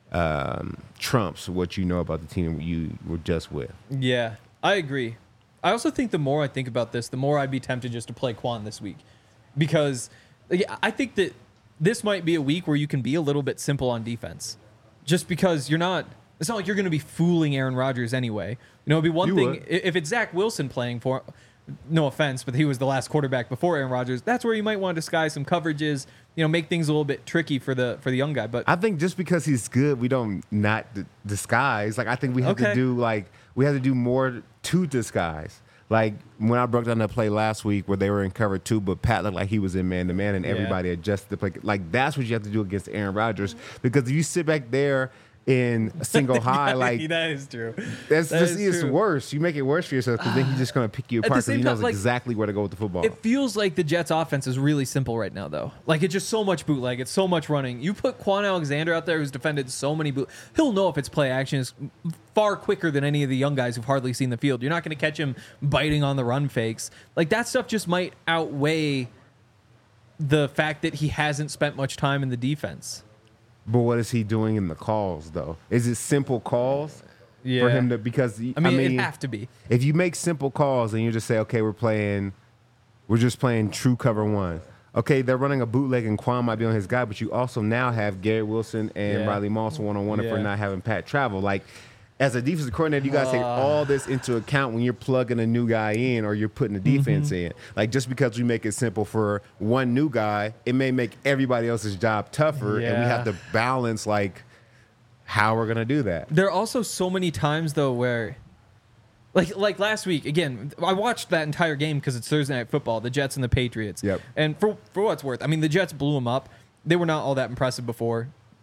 trumps what you know about the team you were just with. Yeah, I agree. I also think the more I think about this, the more I'd be tempted just to play Quan this week, because I think that this might be a week where you can be a little bit simple on defense, just because it's not like you're going to be fooling Aaron Rodgers anyway. You know, it'd be one thing if it's Zach Wilson playing for. No offense, but he was the last quarterback before Aaron Rodgers. That's where you might want to disguise some coverages, make things a little bit tricky for the young guy. But I think just because he's good, we don't not disguise. Like I think we have to do more to disguise. Like when I broke down that play last week where they were in cover 2, but Pat looked like he was in man-to-man and everybody adjusted the play. Like that's what you have to do against Aaron Rodgers, because if you sit back there in single high, like that is true. It's worse. You make it worse for yourself, because then he's just going to pick you apart, because he knows exactly where to go with the football. It feels like the Jets' offense is really simple right now, though. Like it's just so much bootleg. It's so much running. You put Quan Alexander out there, who's defended so many he'll know if it's play action is far quicker than any of the young guys who've hardly seen the field. You're not going to catch him biting on the run fakes. Like that stuff just might outweigh the fact that he hasn't spent much time in the defense. But what is he doing in the calls, though? Is it simple calls for him to? Because I mean, it'd have to be. If you make simple calls and you just say, okay, we're just playing true cover 1. Okay, they're running a bootleg and Quan might be on his guy, but you also now have Garrett Wilson and Riley Moss one-on-one if we're not having Pat travel. Like, as a defensive coordinator, you got to take all this into account when you're plugging a new guy in or you're putting the defense in. Like, just because we make it simple for one new guy, it may make everybody else's job tougher, and we have to balance, like, how we're going to do that. There are also so many times, though, where, like last week, again, I watched that entire game because it's Thursday Night Football, the Jets and the Patriots. Yep. And for what it's worth, I mean, the Jets blew them up. They were not all that impressive before.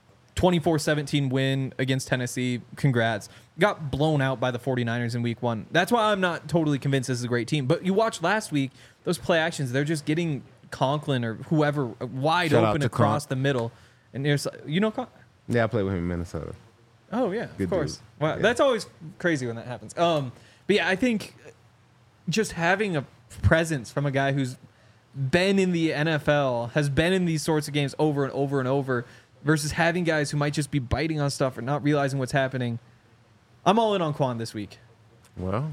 24-17 win against Tennessee. Congrats. Got blown out by the 49ers in week 1. That's why I'm not totally convinced this is a great team. But you watched last week, those play actions, they're just getting Conklin or whoever wide open across the middle. And there's, Conklin? Yeah, I played with him in Minnesota. Oh, yeah, Good of course. dude. Wow, Yeah. That's always crazy when that happens. But yeah, I think just having a presence from a guy who's been in the NFL, has been in these sorts of games over and over and over, versus having guys who might just be biting on stuff or not realizing what's happening. I'm all in on Quan this week. Well,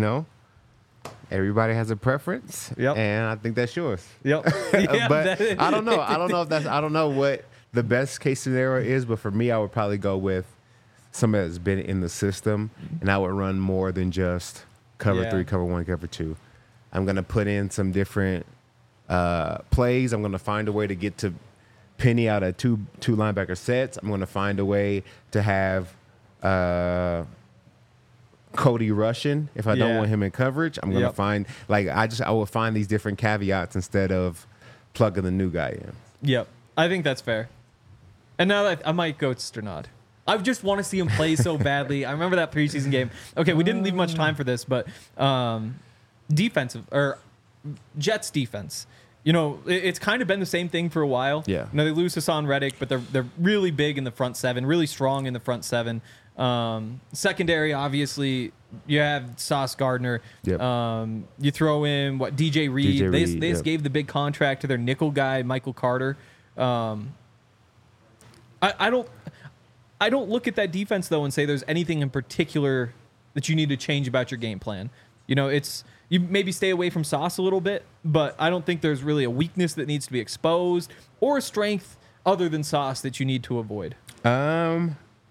everybody has a preference. Yep. And I think that's yours. Yep. But I don't know. I don't know what the best case scenario is, but for me, I would probably go with somebody that's been in the system, and I would run more than just cover 3, cover 1, cover 2. I'm going to put in some different plays. I'm going to find a way to get to Penny out of two linebacker sets. I'm going to find a way to have Cody rushing if I don't want him in coverage. I'm going to find I will find these different caveats instead of plugging the new guy in. Yep, I think that's fair. And now that I might go Sternad. I just want to see him play so badly. I remember that preseason game. Okay, we didn't leave much time for this, but Jets defense. It's kind of been the same thing for a while. Yeah. They lose Hassan Reddick, but they're really big in the front 7, really strong in the front 7. Secondary, obviously, you have Sauce Gardner. Yep. You throw in DJ Reed. They just gave the big contract to their nickel guy, Michael Carter. I don't look at that defense though and say there's anything in particular that you need to change about your game plan. You maybe stay away from Sauce a little bit, but I don't think there's really a weakness that needs to be exposed or a strength other than Sauce that you need to avoid. All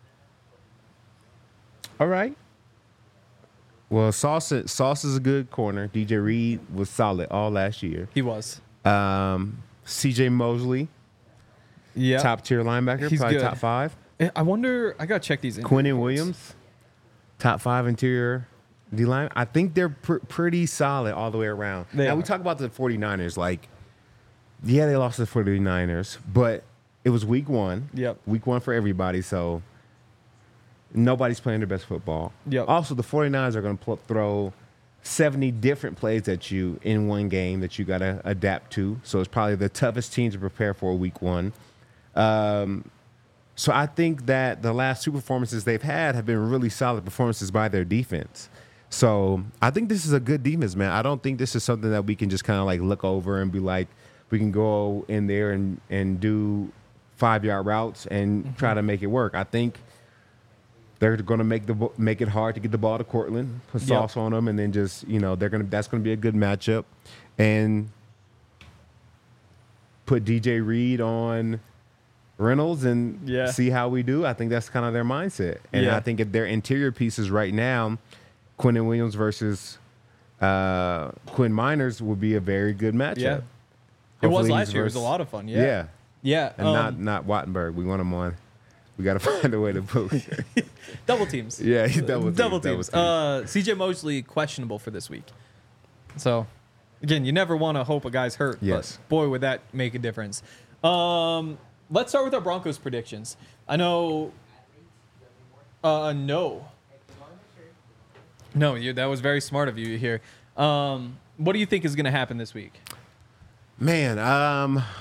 right. Well, Sauce is a good corner. DJ Reed was solid all last year. He was. CJ Mosley, top tier linebacker, He's probably good. top 5. I wonder. I gotta check these. Quinnen Williams, top 5 interior D-line. I think they're pretty solid all the way around. We talk about the 49ers. They lost to the 49ers, but it was week 1. Yep. Week 1 for everybody, so nobody's playing their best football. Yep. Also, the 49ers are going to throw 70 different plays at you in one game that you got to adapt to. So it's probably the toughest team to prepare for week 1. So I think that the last 2 performances they've had have been really solid performances by their defense. So I think this is a good defense, man. I don't think this is something that we can just kind of look over and be like, we can go in there and do 5-yard routes and try to make it work. I think they're going to make it hard to get the ball to Cortland, put sauce on them, and then just that's going to be a good matchup, and put DJ Reed on Reynolds and see how we do. I think that's kind of their mindset, and I think if their interior pieces right now, Quentin Williams versus Quinn Miners will be a very good matchup. Yeah. It was last year. It was a lot of fun. Yeah. And not Wattenberg. We want him on. We got to find a way to put double teams. Yeah, double teams. CJ Mosley questionable for this week. So, again, you never want to hope a guy's hurt. Yes. But boy, would that make a difference. Let's start with our Broncos predictions. I know. No. No, that was very smart of you here. What do you think is going to happen this week? Man,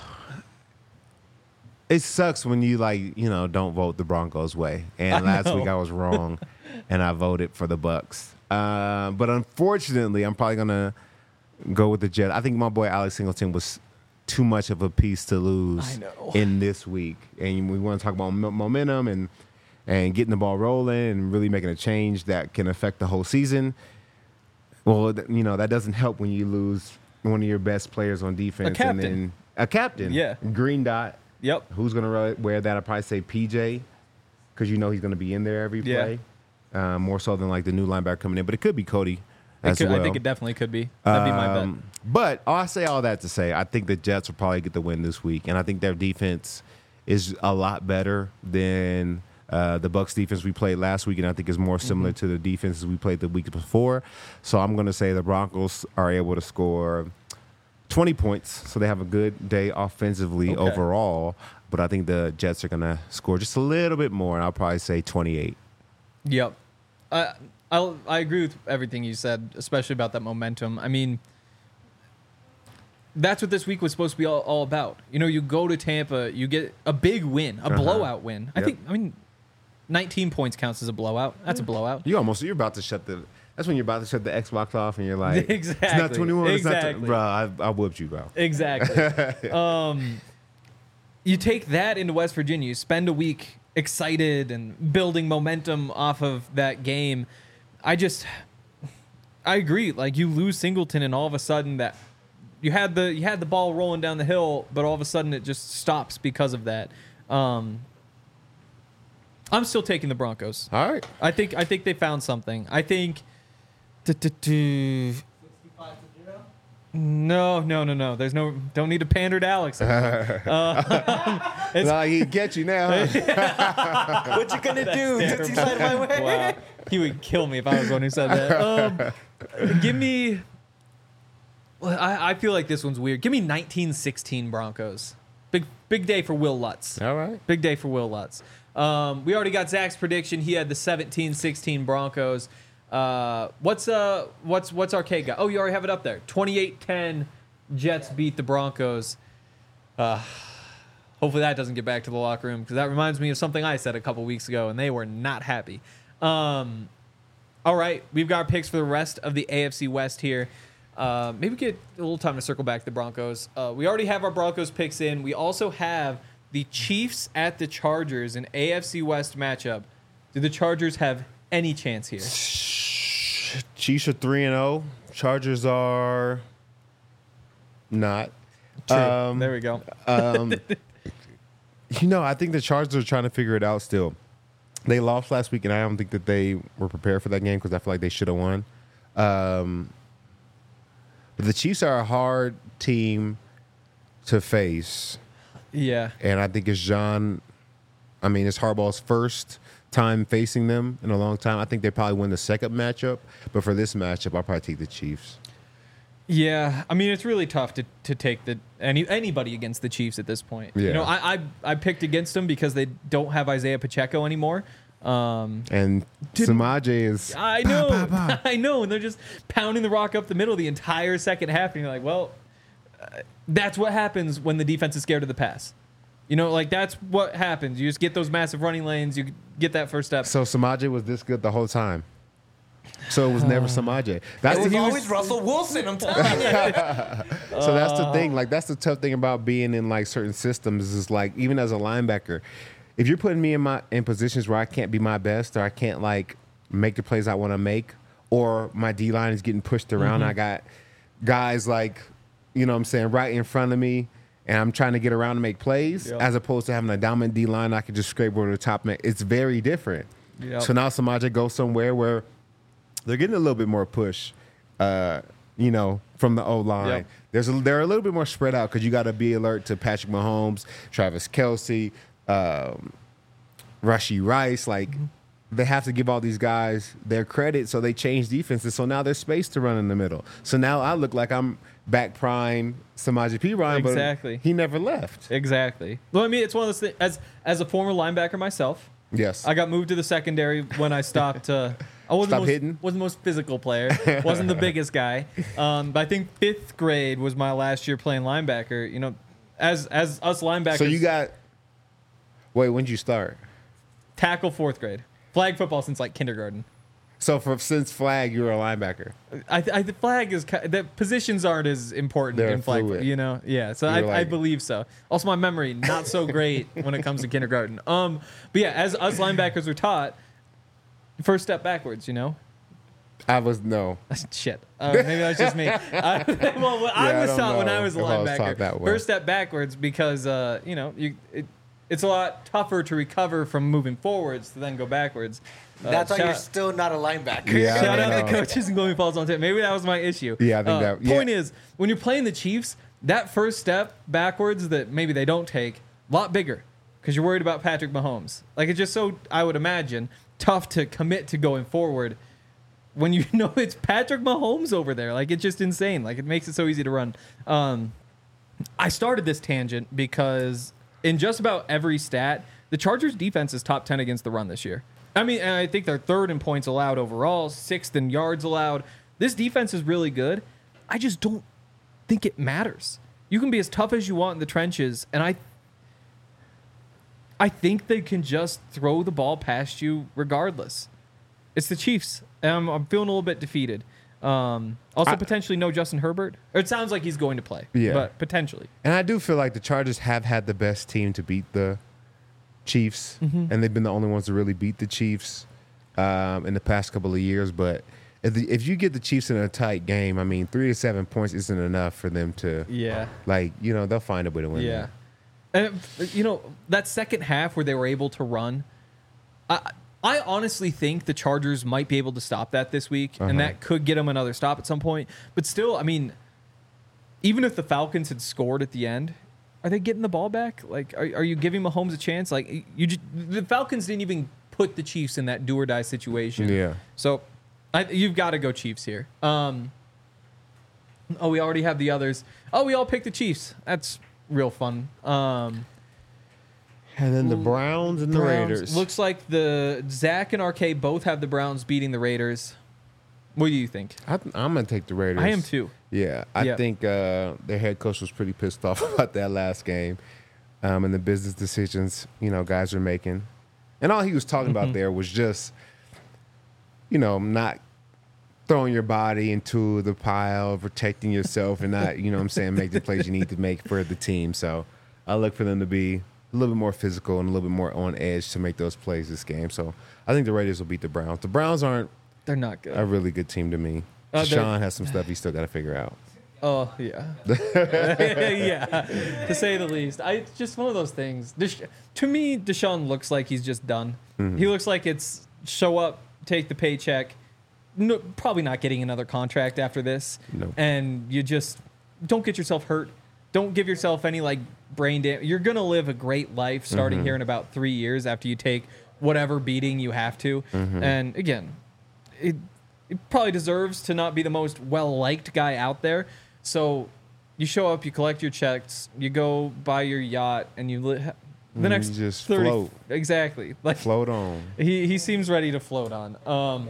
it sucks when you don't vote the Broncos way. And last week I was wrong, and I voted for the Bucks. But unfortunately, I'm probably gonna go with the Jets. I think my boy Alex Singleton was too much of a piece to lose in this week. And we want to talk about momentum and getting the ball rolling and really making a change that can affect the whole season. Well, that doesn't help when you lose one of your best players on defense. A captain. And then a captain. Yeah. Green dot. Yep. Who's going to wear that? I'd probably say PJ, because he's going to be in there every play. More so than like the new linebacker coming in. But it could be Cody as well. I think it definitely could be. That'd be my bet. But I'll say all that to say, I think the Jets will probably get the win this week. And I think their defense is a lot better than the Bucs defense we played last week, and I think is more similar to the defenses we played the week before. So I'm going to say the Broncos are able to score 20 points, so they have a good day offensively overall. But I think the Jets are going to score just a little bit more, and I'll probably say 28. Yep. I agree with everything you said, especially about that momentum. I mean, that's what this week was supposed to be all about. You go to Tampa, you get a big win, a blowout win. I mean, 19 points counts as a blowout. That's a blowout. You're about to shut that's when you're about to shut the Xbox off and you're like, exactly. It's not 21. Exactly. It's not bro, I whooped you, bro. Exactly. You take that into West Virginia, you spend a week excited and building momentum off of that game. I agree. Like, you lose Singleton and all of a sudden that you had the ball rolling down the hill, but all of a sudden it just stops because of that. I'm still taking the Broncos. All right. I think they found something. I think. 65-0. No. There's don't need to pander to Alex. No, he get you now. Huh? What you gonna do? Since he's out of my way. Wow. He would kill me if I was the one who said that. Give me. Well, I feel like this one's weird. Give me 1916 Broncos. Big day for Will Lutz. All right. Big day for Will Lutz. We already got Zach's prediction. He had the 17-16 Broncos. What's our K guy? Oh, you already have it up there. 28-10 Jets beat the Broncos. Hopefully that doesn't get back to the locker room, because that reminds me of something I said a couple weeks ago, and they were not happy. All right, we've got our picks for the rest of the AFC West here. Maybe get a little time to circle back to the Broncos. We already have our Broncos picks in. We also have the Chiefs at the Chargers, an AFC West matchup. Do the Chargers have any chance here? Chiefs are 3-0. Chargers are not. True. There we go. I think the Chargers are trying to figure it out still. They lost last week, and I don't think that they were prepared for that game, because I feel like they should have won. But the Chiefs are a hard team to face. Yeah. And I think it's Harbaugh's first time facing them in a long time. I think they probably win the second matchup. But for this matchup, I'll probably take the Chiefs. Yeah. I mean, it's really tough to take anybody against the Chiefs at this point. Yeah. I picked against them because they don't have Isaiah Pacheco anymore. And Samaje is... I know. I know. And they're just pounding the rock up the middle the entire second half. And you're like, well... that's what happens when the defense is scared of the pass. That's what happens. You just get those massive running lanes. You get that first step. So Samaje was this good the whole time. So it was never Samaje. It was always Russell Wilson, I'm telling you. So that's the thing. Like, that's the tough thing about being in, like, certain systems is, like, even as a linebacker, if you're putting me in positions where I can't be my best, or I can't like make the plays I want to make, or my D line is getting pushed around, I got guys like, you know what I'm saying, right in front of me, and I'm trying to get around to make plays, as opposed to having a dominant D line I can just scrape over the top. It's very different. So now Samaje goes somewhere where they're getting a little bit more push, you know, from the O-line. They're a little bit more spread out because you got to be alert to Patrick Mahomes, Travis Kelce, Rashee Rice. Like, they have to give all these guys their credit, so they change defenses. So now there's space to run in the middle. So now I look like I'm back prime Samaje Perine, but he never left. Exactly. Well, I mean, it's one of those things. As a former linebacker myself, yes, I got moved to the secondary when I stopped. I wasn't the most physical player. Wasn't the biggest guy. But I think 5th grade was my last year playing linebacker. You know, as us linebackers. So you got. Wait, when did you start? Tackle 4th grade. Flag football since like kindergarten. So since flag, you were a linebacker. The flag is the positions aren't as important in flag, you know. Yeah, so I believe so. Also, my memory not so great when it comes to kindergarten. But yeah, as us linebackers were taught, first step backwards. You know. I was no. Shit. Maybe that's just me. I was taught when I was a linebacker. First step backwards because you know it's a lot tougher to recover from moving forwards to then go backwards. That's why you're still not a linebacker. Yeah, shout out the coaches and going falls on tape. Maybe that was my issue. Yeah, I think that. Yeah. Point is, when you're playing the Chiefs, that first step backwards that maybe they don't take, a lot bigger because you're worried about Patrick Mahomes. Like, it's just so, I would imagine, tough to commit to going forward when you know it's Patrick Mahomes over there. Like, it's just insane. Like, it makes it so easy to run. I started this tangent because in just about every stat, the Chargers defense is top 10 against the run this year. I mean, I think they're 3rd in points allowed overall, 6th in yards allowed. This defense is really good. I just don't think it matters. You can be as tough as you want in the trenches, and I think they can just throw the ball past you regardless. It's the Chiefs, and I'm feeling a little bit defeated. Also, potentially no Justin Herbert. Or it sounds like he's going to play, but potentially. And I do feel like the Chargers have had the best team to beat the Chiefs, and they've been the only ones to really beat the Chiefs in the past couple of years. But if you get the Chiefs in a tight game, I mean, 3 to 7 points isn't enough for them to, like, you know, they'll find a way to win. Yeah. And, you know, that second half where they were able to run, I honestly think the Chargers might be able to stop that this week, and that could get them another stop at some point. But still, I mean, even if the Falcons had scored at the end, are they getting the ball back? Like, are you giving Mahomes a chance? Like, the Falcons didn't even put the Chiefs in that do or die situation. Yeah. So, you've got to go Chiefs here. We already have the others. Oh, we all picked the Chiefs. That's real fun. And then the Browns and the Raiders. Looks like Zach and RK both have the Browns beating the Raiders. What do you think? I'm going to take the Raiders. I am too. Yeah, I think their head coach was pretty pissed off about that last game and the business decisions, you know, guys are making. And all he was talking about there was just, you know, not throwing your body into the pile, protecting yourself, and not, you know what I'm saying, make the plays you need to make for the team. So I look for them to be a little bit more physical and a little bit more on edge to make those plays this game. So I think the Raiders will beat the Browns. The Browns they're not good. A really good team to me. Sean has some stuff he's still got to figure out. Oh, yeah. Yeah, to say the least. It's just one of those things. To me, Deshaun looks like he's just done. He looks like it's show up, take the paycheck, probably not getting another contract after this. Nope. And you just don't get yourself hurt. Don't give yourself any, like, brain damage. You're going to live a great life starting here in about 3 years after you take whatever beating you have to. And, again, it probably deserves to not be the most well-liked guy out there. So you show up, you collect your checks, you go buy your yacht, and the next you just 30, float. Exactly. Like, float on. He seems ready to float on.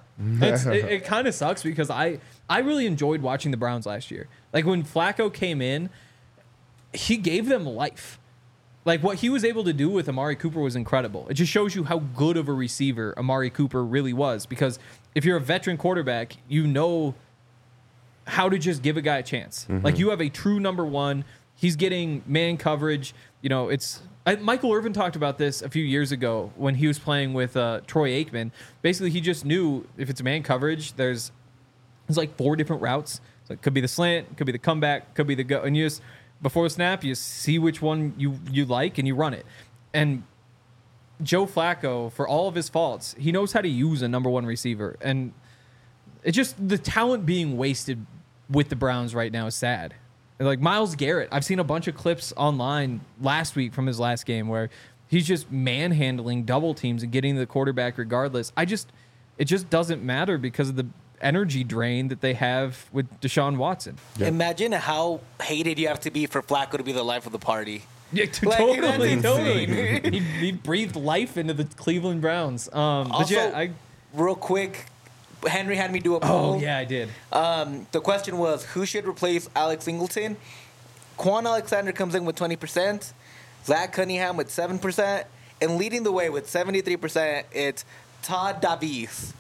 It kind of sucks because I really enjoyed watching the Browns last year. Like, when Flacco came in, he gave them life. Like, what he was able to do with Amari Cooper was incredible. It just shows you how good of a receiver Amari Cooper really was. Because if you're a veteran quarterback, you know how to just give a guy a chance. Like, you have a true number one. He's getting man coverage. You know, Michael Irvin talked about this a few years ago when he was playing with Troy Aikman. Basically, he just knew if it's man coverage, there's like 4 different routes. So it could be the slant, could be the comeback, could be the go. And you just, before the snap, you see which one you like and you run it. And Joe Flacco, for all of his faults, he knows how to use a number 1 receiver. And it's just the talent being wasted with the Browns right now is sad. Like Myles Garrett, I've seen a bunch of clips online last week from his last game where he's just manhandling double teams and getting the quarterback regardless. It just doesn't matter because of the energy drain that they have with Deshaun Watson. Yep. Imagine how hated you have to be for Flacco to be the life of the party. Yeah, totally. He breathed life into the Cleveland Browns. Real quick, Henry had me do a poll. Oh, yeah, I did. The question was, who should replace Alex Singleton? Quan Alexander comes in with 20%, Zach Cunningham with 7%, and leading the way with 73%, it's Todd Davies.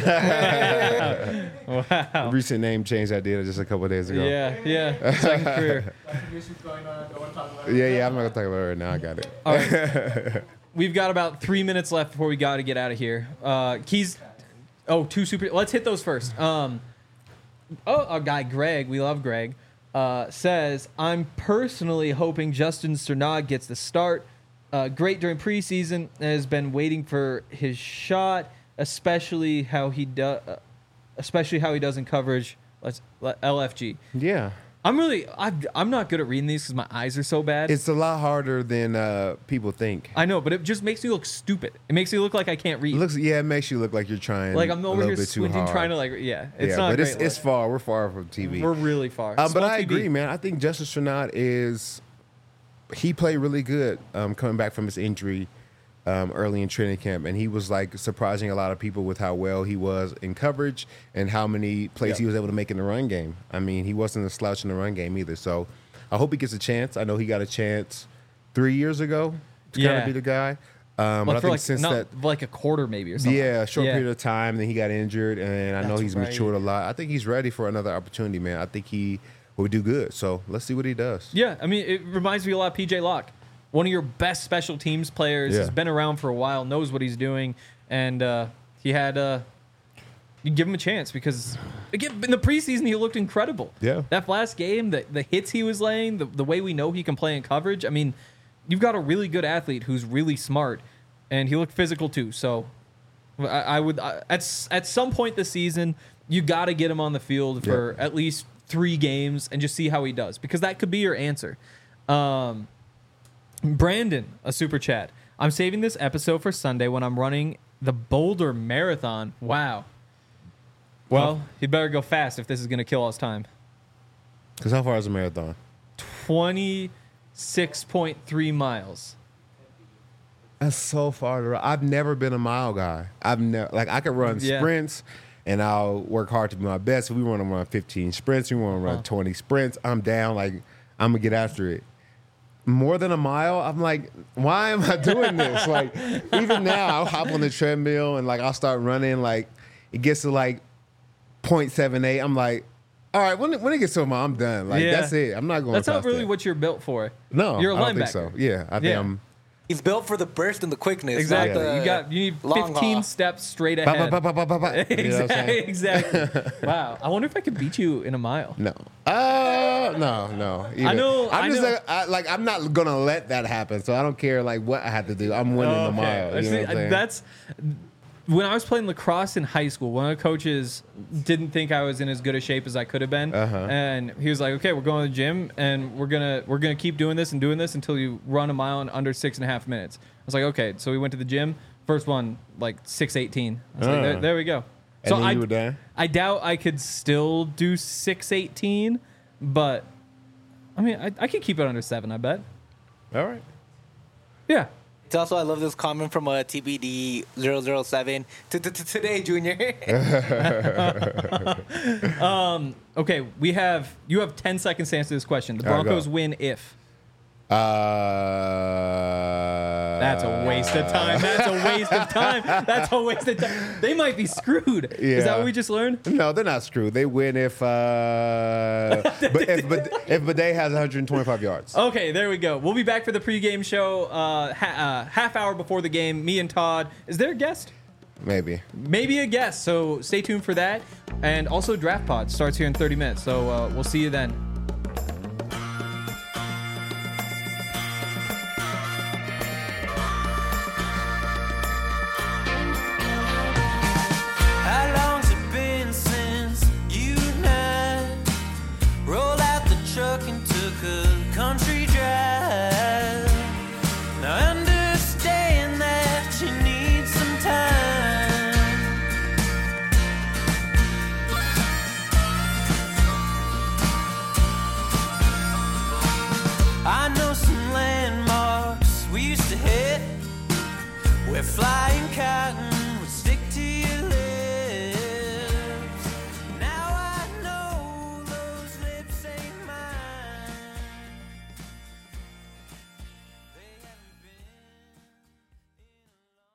Wow. Recent name change I did just a couple of days ago. Yeah. Second career. Yeah, I'm not going to talk about it right now. I got it. All right. We've got about 3 minutes left before we got to get out of here. Keys. Oh, 2 super. Let's hit those first. Our guy Greg, we love Greg, says, I'm personally hoping Justin Strnad gets the start. Great during preseason, has been waiting for his shot, especially how he does in coverage. LFG. Yeah. I'm not good at reading these because my eyes are so bad. It's a lot harder than people think. I know, but it just makes me look stupid. It makes me look like I can't read. It makes you look like you're trying. Like I'm over a here bit too squinting, hard. trying to it's not. But great it's far. We're far from TV. We're really far. But I agree, man. I think Justin Strnad he played really good coming back from his injury early in training camp, and he was like surprising a lot of people with how well he was in coverage and how many plays he was able to make in the run game. I mean, he wasn't a slouch in the run game either. So I hope he gets a chance. I know he got a chance 3 years ago to kind of be the guy. But I think since like a quarter maybe or something. Yeah, a short period of time. Then he got injured, and I know he's matured a lot. I think he's ready for another opportunity, man. I think he will do good. So let's see what he does. Yeah, I mean, it reminds me a lot of PJ Locke. One of your best special teams players. Has been around for a while, knows what he's doing, and you give him a chance because again in the preseason he looked incredible. Yeah, that last game, the hits he was laying, the way we know he can play in coverage. I mean, you've got a really good athlete who's really smart, and he looked physical too. So I would at some point this season you got to get him on the field for at least 3 games and just see how he does because that could be your answer. Brandon, a super chat. I'm saving this episode for Sunday when I'm running the Boulder Marathon. Wow. Well, you better go fast if this is going to kill us time. Because how far is a marathon? 26.3 miles. That's so far to run. I've never been a mile guy. I could run sprints, and I'll work hard to be my best. If we want to run 15 sprints, we want to run 20 sprints, I'm down. Like, I'm going to get after it. More than a mile, I'm like, why am I doing this? Like, even now, I'll hop on the treadmill and, like, I'll start running. Like, it gets to, like, 0.78. I'm like, all right, when it gets to a mile, I'm done. Like, that's it. I'm not going That's past not really that. what you're built for. No, you're a linebacker. I don't think so. Yeah, I think I'm... He's built for the burst and the quickness. Exactly. You need 15 steps straight ahead. Exactly. Wow. I wonder if I could beat you in a mile. No. No. Either. I'm not gonna let that happen. So I don't care like what I have to do. I'm winning the mile. You know what I'm saying? That's when I was playing lacrosse in high school. One of the coaches didn't think I was in as good a shape as I could have been, and he was like, "Okay, we're going to the gym, and we're gonna keep doing this until you run a mile in under 6.5 minutes." I was like, "Okay." So we went to the gym. First one, like 6:18. I was like, there we go. And so then you were done? I doubt I could still do 6:18, but I mean, I could keep it under 7. I bet. All right. Yeah. It's also, I love this comment from TBD 007 today, Junior. Okay, you have 10 seconds to answer this question. The Broncos win if. That's a waste of time. That's a waste of time. That's a waste of time. They might be screwed. Is that what we just learned? No, they're not screwed. They win if Bidet has 125 yards. Okay, there we go. We'll be back for the pregame show half hour before the game. Me and Todd. Is there a guest? Maybe a guest. So stay tuned for that. And also Draft Pod starts here in 30 minutes. So we'll see you then. Country drive. Now understand that you need some time. I know some landmarks we used to hit. We're flying cotton